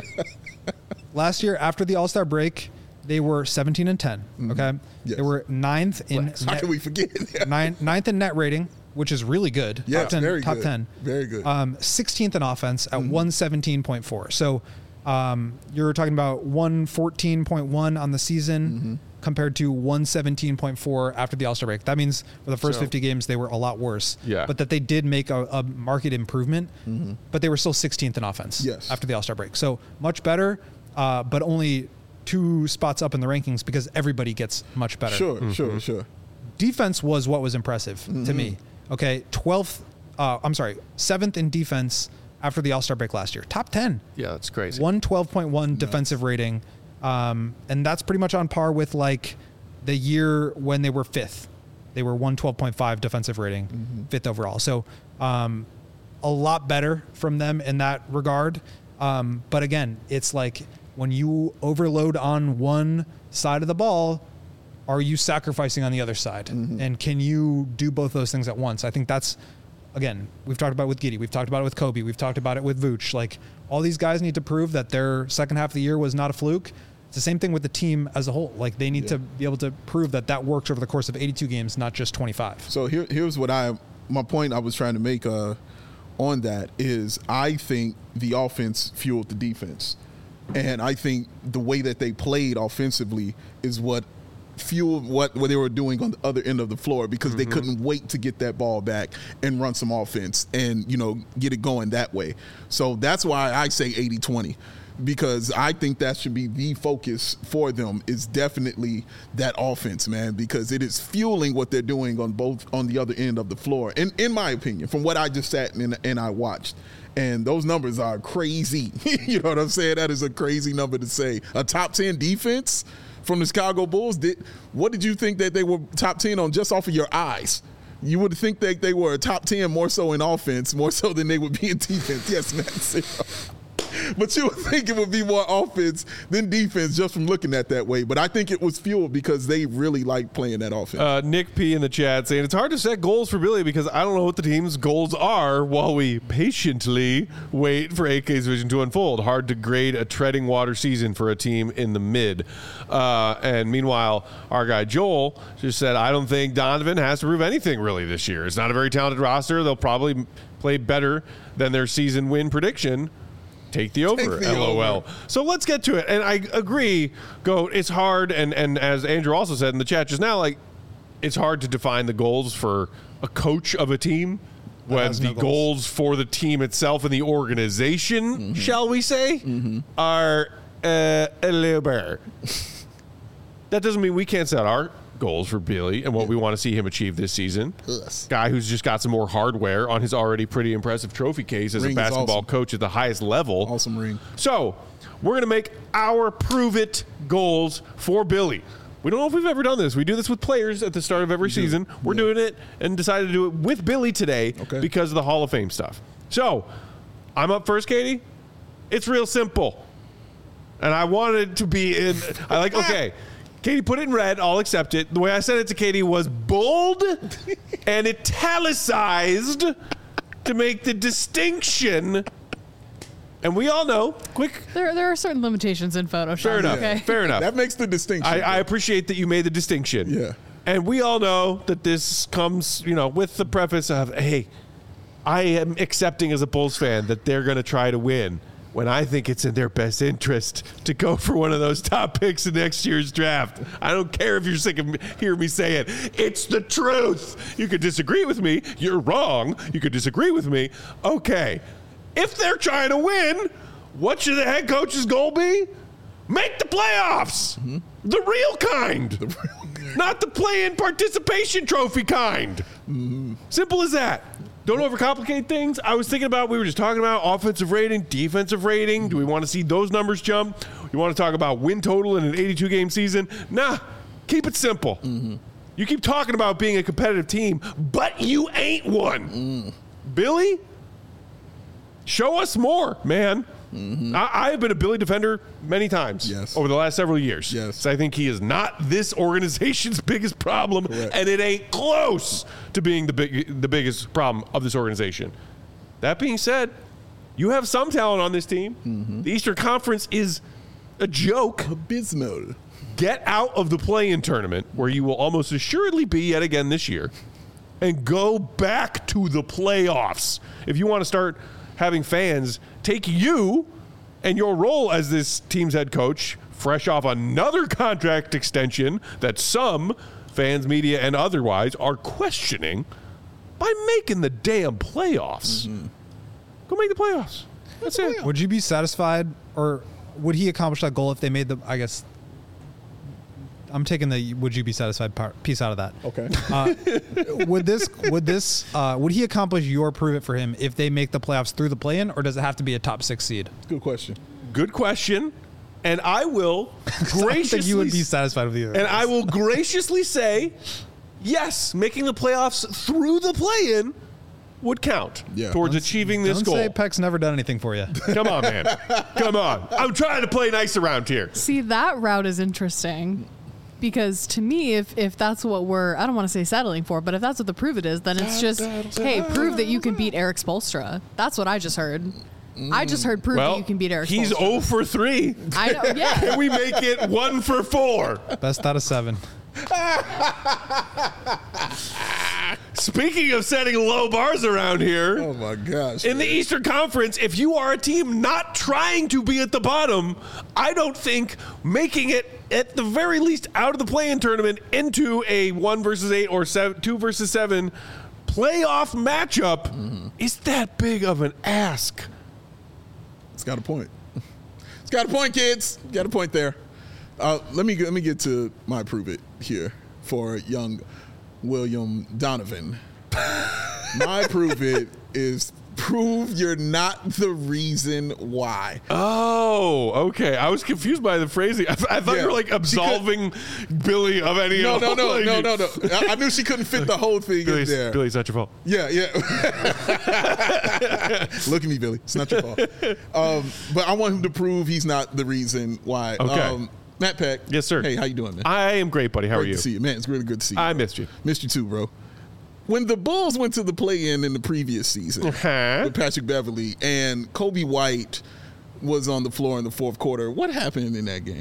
they were 17 and 10. Okay, they were 9th in. How can we forget? 9th in net rating, which is really good. Yeah, top 10, very top good. 10. Very good. 16th in offense at 117.4. So you're talking about 114.1 on the season compared to 117.4 after the All-Star break. That means for the first 50 games, they were a lot worse. But that they did make a market improvement, but they were still 16th in offense after the All-Star break. So much better, but only 2 spots up in the rankings because everybody gets much better. Sure. Defense was what was impressive to me. Okay, 7th in defense after the All-Star break last year. Top 10. Yeah, that's crazy. 112.1 defensive rating. And that's pretty much on par with the year when they were 5th. They were 112.5 defensive rating, 5th overall. So a lot better from them in that regard. But again, it's when you overload on one side of the ball, are you sacrificing on the other side? And can you do both those things at once? I think that's, again, we've talked about it with Giddey. We've talked about it with Kobe. We've talked about it with Vooch. All these guys need to prove that their second half of the year was not a fluke. It's the same thing with the team as a whole. They need to be able to prove that works over the course of 82 games, not just 25. So here's what my point I was trying to make on that is I think the offense fueled the defense. And I think the way that they played offensively is what fueled what they were doing on the other end of the floor because they couldn't wait to get that ball back and run some offense and, get it going that way. So that's why I say 80-20. because I think that should be the focus for them, is definitely that offense, man, because it is fueling what they're doing on the other end of the floor. In my opinion, from what I just sat and I watched. And those numbers are crazy. You know what I'm saying? That is a crazy number to say. A top 10 defense from the Chicago Bulls. What did you think that they were top 10 on just off of your eyes? You would think that they were a top 10 more so in offense, more so than they would be in defense. Yes, man. But you would think it would be more offense than defense just from looking at that way. But I think it was fueled because they really like playing that offense. Nick P. in the chat saying, it's hard to set goals for Billy because I don't know what the team's goals are while we patiently wait for AK's vision to unfold. Hard to grade a treading water season for a team in the mid. And meanwhile, our guy Joel just said, I don't think Donovan has to prove anything really this year. It's not a very talented roster. They'll probably play better than their season win prediction. Take the over, LOL. So let's get to it. And I agree, Goat, it's hard, and as Andrew also said in the chat just now, like, it's hard to define the goals for a coach of a team when the goals for the team itself and the organization, shall we say, are a little better. That doesn't mean we can't set our goals for Billy and what we want to see him achieve this season. Yes. Guy who's just got some more hardware on his already pretty impressive trophy case as a basketball coach at the highest level. Awesome ring. So we're going to make our prove it goals for Billy. We don't know if we've ever done this. We do this with players at the start of every season. We're doing it and decided to do it with Billy today because of the Hall of Fame stuff. So I'm up first, Katie. It's real simple. And I wanted to be in, okay. Katie, put it in red. I'll accept it. The way I said it to Katie was bold and italicized to make the distinction. And we all know, There are certain limitations in Photoshop. Fair enough. Okay? Fair enough. That makes the distinction. I appreciate that you made the distinction. Yeah. And we all know that this comes, with the preface of, hey, I am accepting as a Bulls fan that they're going to try to win, when I think it's in their best interest to go for one of those top picks in next year's draft. I don't care if you're sick of hearing me say it. It's the truth. You could disagree with me. You're wrong. You could disagree with me. Okay. If they're trying to win, what should the head coach's goal be? Make the playoffs. The real kind. Not the play-in participation trophy kind. Simple as that. Don't overcomplicate things. I was thinking about, we were just talking about offensive rating, defensive rating. Do we want to see those numbers jump? You want to talk about win total in an 82-game season? Nah, keep it simple. You keep talking about being a competitive team, but you ain't one. Billy, show us more, man. I have been a Billy defender many times over the last several years. So I think he is not this organization's biggest problem, and it ain't close to being the biggest problem of this organization. That being said, you have some talent on this team. The Eastern Conference is a joke. Abysmal. Get out of the play-in tournament, where you will almost assuredly be yet again this year, and go back to the playoffs. If you want to start having fans take you and your role as this team's head coach, fresh off another contract extension that some fans, media, and otherwise are questioning, by making the damn playoffs. Go make the playoffs. That's it. Would you be satisfied, or would he accomplish that goal if they made I'm taking the would you be satisfied piece out of that. Okay. Would he accomplish your prove it for him if they make the playoffs through the play-in, or does it have to be a top 6 seed? Good question. Good question. And I will graciously... I think you would be satisfied with either. And I will graciously say, yes, making the playoffs through the play-in would count towards achieving this goal. Don't say Peck's never done anything for you. Come on, man. Come on. I'm trying to play nice around here. See, that route is interesting. Because to me, if that's what I don't want to say settling for, but if that's what the prove it is, then it's just, hey, prove that you can beat Eric Spoelstra. That's what I just heard. I just heard prove that you can beat Eric Spoelstra. He's 0 for 3. I know, yeah. Can we make it 1 for 4? Best out of 7. Speaking of setting low bars around here. Oh, my gosh. In the Eastern Conference, if you are a team not trying to be at the bottom, I don't think making it at the very least out of the play-in tournament into a 1 versus 8 or 2 versus 7 playoff matchup is that big of an ask. It's got a point. It's got a point, kids. Got a point there. Let me get to my prove it here for young William Donovan. My prove it is prove you're not the reason why. Oh, okay. I was confused by the phrasing. I thought you were like absolving Billy of any. No. I knew she couldn't fit the whole thing in there. Billy, it's not your fault. Yeah. Look at me, Billy. It's not your fault. But I want him to prove he's not the reason why. Okay. Matt Peck. Yes, sir. Hey, how you doing, man? I am great, buddy. How are Great you? to see you, man. It's really good to see you. I missed you. Missed you too, bro. When the Bulls went to the play-in in the previous season with Patrick Beverley and Kobe White was on the floor in the fourth quarter, what happened in that game?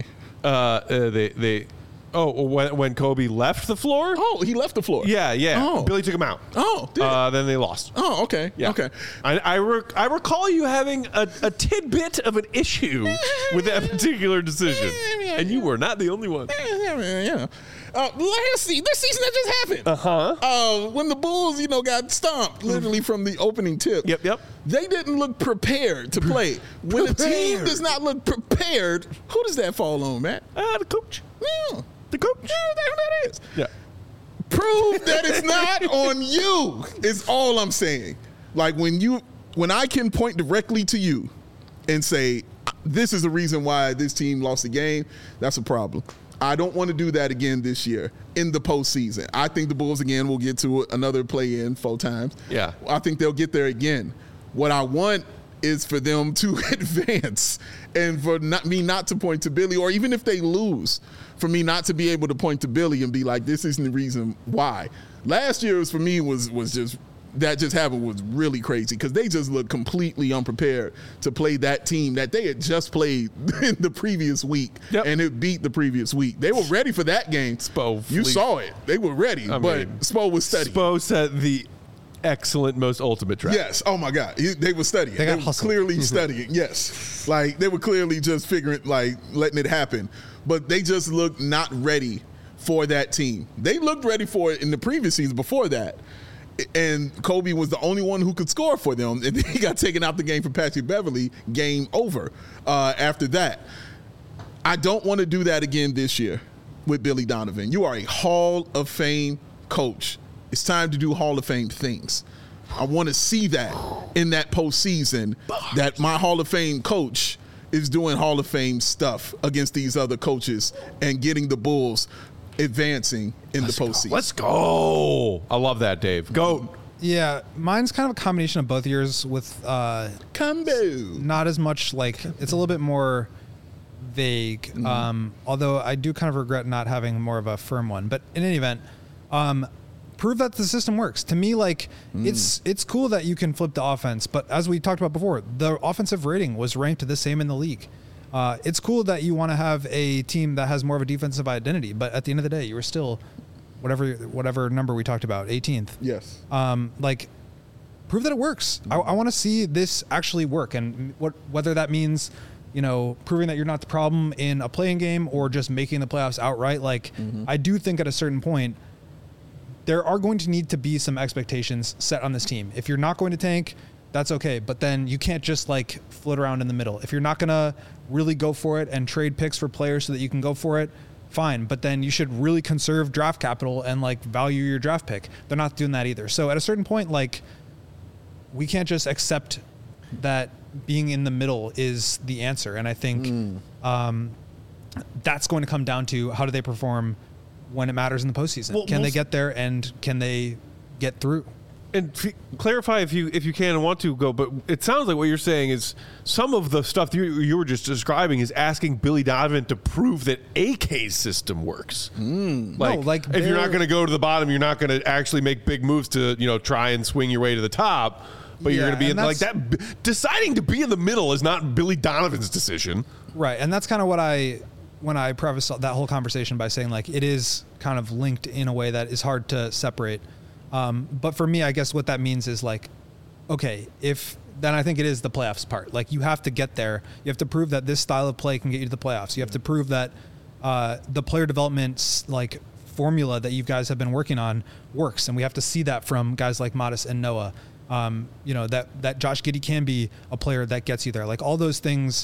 When Kobe left the floor? Oh, he left the floor. Yeah. Oh. Billy took him out. Oh, did then they lost. Oh, okay. Yeah. Okay. I recall you having a tidbit of an issue with that particular decision, and you were not the only one. Yeah. This season that just happened. When the Bulls, got stomped literally from the opening tip. Yep. They didn't look prepared to play. When a team does not look prepared, who does that fall on, Matt? The coach. Yeah. The coach. Yeah, that is. Yeah. Prove that it's not on you is all I'm saying. Like when I can point directly to you and say, this is the reason why this team lost the game, that's a problem. I don't want to do that again this year in the postseason. I think the Bulls again will get to another play-in 4 times. Yeah. I think they'll get there again. What I want is for them to advance and for me not to point to Billy, or even if they lose, for me not to be able to point to Billy and be like, this isn't the reason why. Last year was just that just happened was really crazy because they just looked completely unprepared to play that team that they had just played in the previous week and it beat the previous week. They were ready for that game. You saw it. They were ready, but Spo was studying. Spo set the excellent, most ultimate trap. Yes. Oh, my God. They were studying. They were clearly studying. Yes. Like, they were clearly just figuring, like, letting it happen. But they just looked not ready for that team. They looked ready for it in the previous season before that. And Kobe was the only one who could score for them. And then he got taken out the game for Patrick Beverley. Game over after that. I don't want to do that again this year with Billy Donovan. You are a Hall of Fame coach. It's time to do Hall of Fame things. I want to see that in that postseason, that my Hall of Fame coach is doing Hall of Fame stuff against these other coaches and getting the Bulls advancing in the postseason. Let's go. I love that, Dave. Go. Yeah, mine's kind of a combination of both years with combo. Not as much, like, it's a little bit more vague. Although I do kind of regret not having more of a firm one. But in any event, prove that the system works. To me, like, it's cool that you can flip the offense, but as we talked about before, the offensive rating was ranked the same in the league. It's cool that you want to have a team that has more of a defensive identity, but at the end of the day, you were still whatever number we talked about, 18th. Yes. Like, prove that it works. I want to see this actually work, and whether that means, proving that you're not the problem in a playing game or just making the playoffs outright. Like, I do think at a certain point, there are going to need to be some expectations set on this team. If you're not going to tank, that's okay. But then you can't just like float around in the middle. If you're not going to really go for it and trade picks for players so that you can go for it, fine. But then you should really conserve draft capital and like value your draft pick. They're not doing that either. So at a certain point, like, we can't just accept that being in the middle is the answer. And I think that's going to come down to how do they perform when it matters in the postseason. Can they get there and can they get through? And clarify if you can and want to go, but it sounds like what you're saying is some of the stuff you were just describing is asking Billy Donovan to prove that AK's system works. Like if you're not going to go to the bottom, you're not going to actually make big moves to try and swing your way to the top. But you're going to be in like that. Deciding to be in the middle is not Billy Donovan's decision, right? And that's kind of what when I preface that whole conversation by saying like it is kind of linked in a way that is hard to separate. But for me, I guess what that means is like, okay, then I think it is the playoffs part. Like you have to get there. You have to prove that this style of play can get you to the playoffs. You have to prove that the player development like formula that you guys have been working on works, and we have to see that from guys like Modest and Noah. That Josh Giddey can be a player that gets you there. Like all those things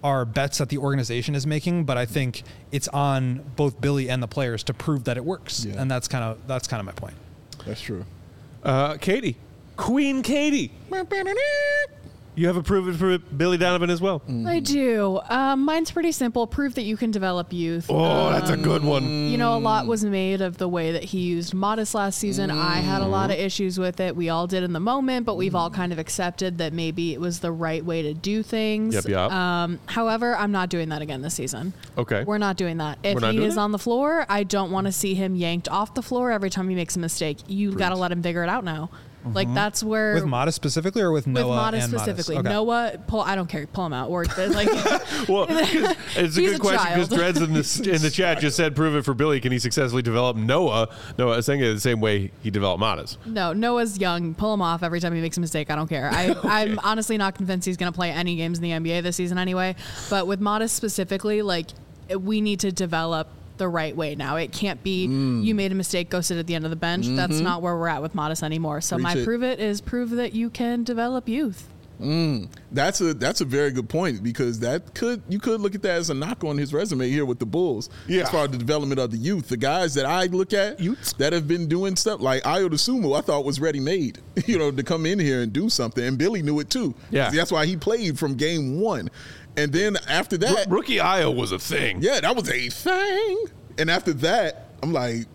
are bets that the organization is making, but I think it's on both Billy and the players to prove that it works. Yeah. And that's kind of my point. That's true. Katie, Queen Katie, you have a prove it for Billy Donovan as well. I do. Mine's pretty simple. Prove that you can develop youth. Oh, that's a good one. You know, a lot was made of the way that he used Modest last season. I had a lot of issues with it. We all did in the moment, but we've all kind of accepted that maybe it was the right way to do things. Yep. However, I'm not doing that again this season. Okay. We're not doing that. If We're not he doing is it? on the floor, I don't want to see him yanked off the floor every time he makes a mistake. You've got to let him figure it out now. Like, that's where... With Modest specifically, or with Noah Modest and specifically. Modest? Okay. Noah, I don't care. Pull him out. Or, like... Well, it's a He's good a question because child. Dreads in the chat just said, prove it for Billy. Can he successfully develop Noah? Noah saying it the same way he developed Modest. No, Noah's young. Pull him off every time he makes a mistake. I don't care. I'm honestly not convinced he's going to play any games in the NBA this season anyway. But with Modest specifically, like, we need to develop the right way now. It can't be you made a mistake, go sit at the end of the bench. That's not where we're at with Modest anymore. So Preach my it. prove it is prove that you can develop youth. That's a very good point, because you could look at that as a knock on his resume here with the Bulls. Yeah. As far as the development of the youth, the guys that I look at that have been doing stuff like Ayo Dosunmu, I thought was ready made, to come in here and do something, and Billy knew it too. Yeah. That's why he played from game one, and then after that, Rookie Ayo was a thing. yeah, that was a thing. And after that, I'm like,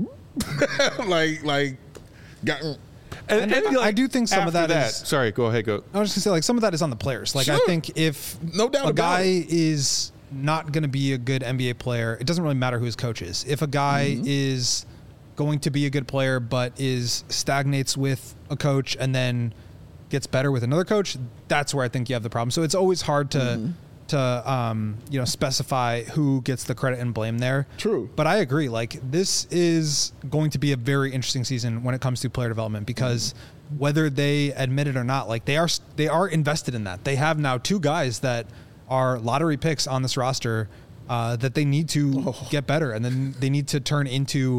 got. And I do think some of after that is- Sorry, go ahead. Go. I was just gonna say, like, some of that is on the players. Like, I Sure. think if No doubt a about guy it. is not going to be a good NBA player, it doesn't really matter who his coach is. If a guy is going to be a good player but stagnates with a coach and then gets better with another coach, that's where I think you have the problem. So it's always hard to specify who gets the credit and blame there. True. But I agree. Like, this is going to be a very interesting season when it comes to player development, because whether they admit it or not, like, they are invested in that. They have now 2 guys that are lottery picks on this roster that they need to get better, and then they need to turn into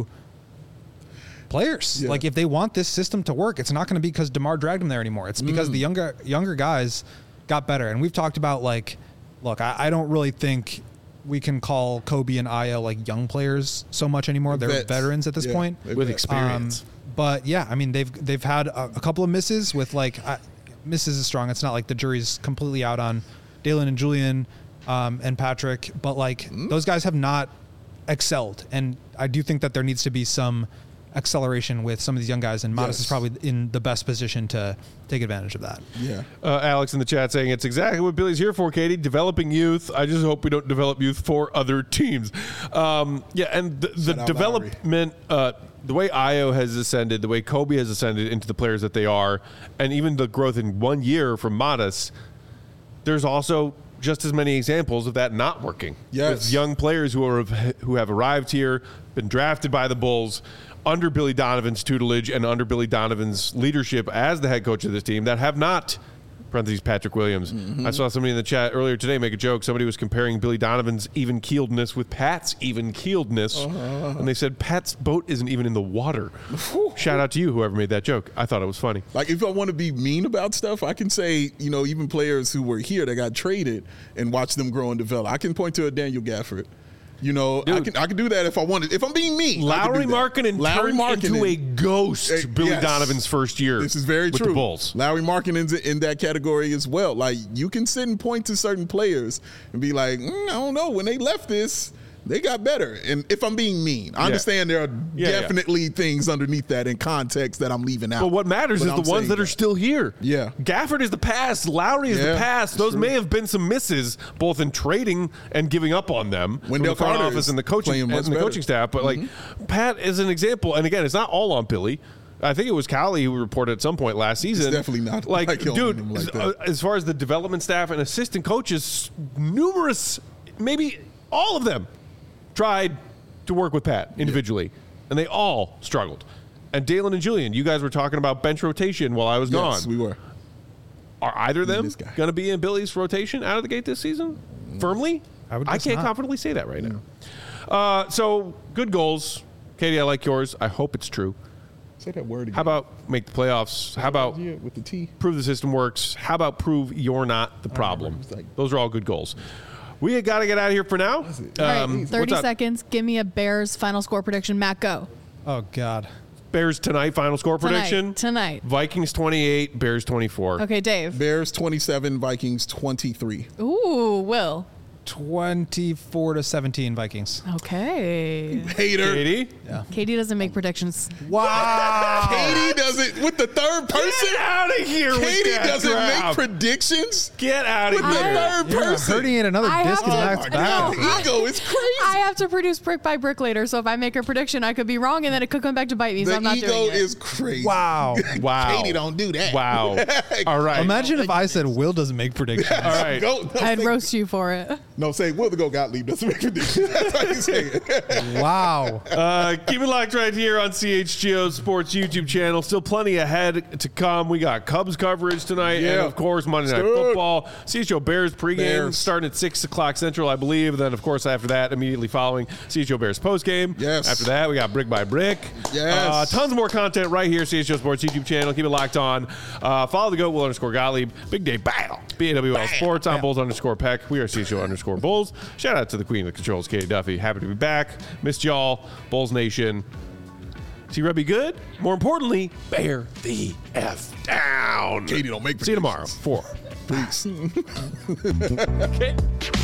players. Yeah. Like, if they want this system to work, it's not going to be because DeMar dragged them there anymore. It's because the younger guys got better. And we've talked about, like, look, I don't really think we can call Kobe and Ayo like young players so much anymore. They're Vets. veterans at this Yeah, point. they're With vets. experience. But yeah, I mean, they've had a couple of misses with, like, misses is strong. It's not like the jury's completely out on Dalen and Julian and Patrick, but, like, those guys have not excelled. And I do think that there needs to be some acceleration with some of these young guys, and Modest Yes. is probably in the best position to take advantage of that. Yeah. Alex in the chat saying it's exactly what Billy's here for, Katie. Developing youth. I just hope we don't develop youth for other teams. And the Shout out development, the way Ayo has ascended, the way Kobe has ascended into the players that they are, and even the growth in 1 year from Modest, there's also just as many examples of that not working. Yes. With young players who have arrived here, been drafted by the Bulls under Billy Donovan's tutelage and under Billy Donovan's leadership as the head coach of this team that have not, parentheses Patrick Williams. I saw somebody in the chat earlier today make a joke. Somebody was comparing Billy Donovan's even-keeledness with Pat's even-keeledness. And they said Pat's boat isn't even in the water. Shout out to you, whoever made that joke. I thought it was funny. Like, if I want to be mean about stuff, I can say, even players who were here that got traded and watch them grow and develop. I can point to a Daniel Gafford. I can do that if I wanted. If I'm being mean, Lauri Markkanen turned into a ghost Billy yes. Donovan's first year. This is very with true. the Bulls. Lauri Markkanen's in that category as well. Like, you can sit and point to certain players and be like, I don't know, when they left this, they got better. And if I'm being mean, I understand there are definitely things underneath that in context that I'm leaving out. But what matters is I'm the ones saying that are still here. Yeah. Gafford is the past. Lowry is the Yeah, past. Those true. may have been some misses, both in trading and giving up on them from Wendell the front Carter office is and the coaching playing much and the better. coaching staff. But like Pat is an example. And again, it's not all on Billy. I think it was Callie who reported at some point last season. definitely not like like dude. him like that. As far as the development staff and assistant coaches, numerous, maybe all of them, tried to work with Pat individually, and they all struggled. And Dalen and Julian, you guys were talking about bench rotation while I was gone. Yes, we were. Are either of them this guy. going to be in Billy's rotation out of the gate this season? Firmly? I would I guess can't not. confidently say that right now. So, good goals. Katie, I like yours. I hope it's true. Say that word again. How about make the playoffs? How about Yeah, with the T. prove the system works? How about prove you're not the problem? Those are all good goals. We got to get out of here for now. All right, 30 what's up? seconds. Give me a Bears final score prediction. Matt, go. Oh God. Bears tonight, final score prediction. Tonight. Vikings 28, Bears 24. Okay, Dave. Bears 27, Vikings 23. Ooh, Will. 24-17 Vikings. Okay. Hater. Katie? Katie doesn't make predictions. Wow. Katie doesn't with the third person. Get out of here with Katie that doesn't crap. make predictions Get out of with the here. third You're person. hurting in another I disc have in to- back to back. No. Ego is crazy. I have to produce brick by brick later, so if I make a prediction, I could be wrong, and then it could come back to bite me. So The I'm not ego doing it. is crazy. Wow. Wow. Katie don't do that. Wow. All right. Imagine if I said Will doesn't make predictions. All right. Go, no, I'd say, roast you for it. no, say Will the Go Gottlieb doesn't make predictions. That's how you say it. Wow. Keep it locked right here on CHGO Sports YouTube channel. Still plenty ahead to come. We got Cubs coverage tonight, and Yeah. of course Monday Night Good. Football. CHGO Bears pregame Bears. starting at 6 o'clock Central, I believe. Then of course after that, immediately following CHGO Bears postgame. Yes. After that, we got Brick by Brick. Yes. Tons more content right here, CHGO Sports YouTube channel. Keep it locked on. Follow the GOAT Will _Gottlieb. Big day battle. BAWL Sports on Bulls _Peck. We are CHGO _Bulls. Shout out to the Queen of the Controls, Katie Duffy. Happy to be back. Missed y'all. Bulls Nation. See Rebby good? More importantly, bear the F down. Katie don't make See you tomorrow. predictions. 4. Peace. Okay.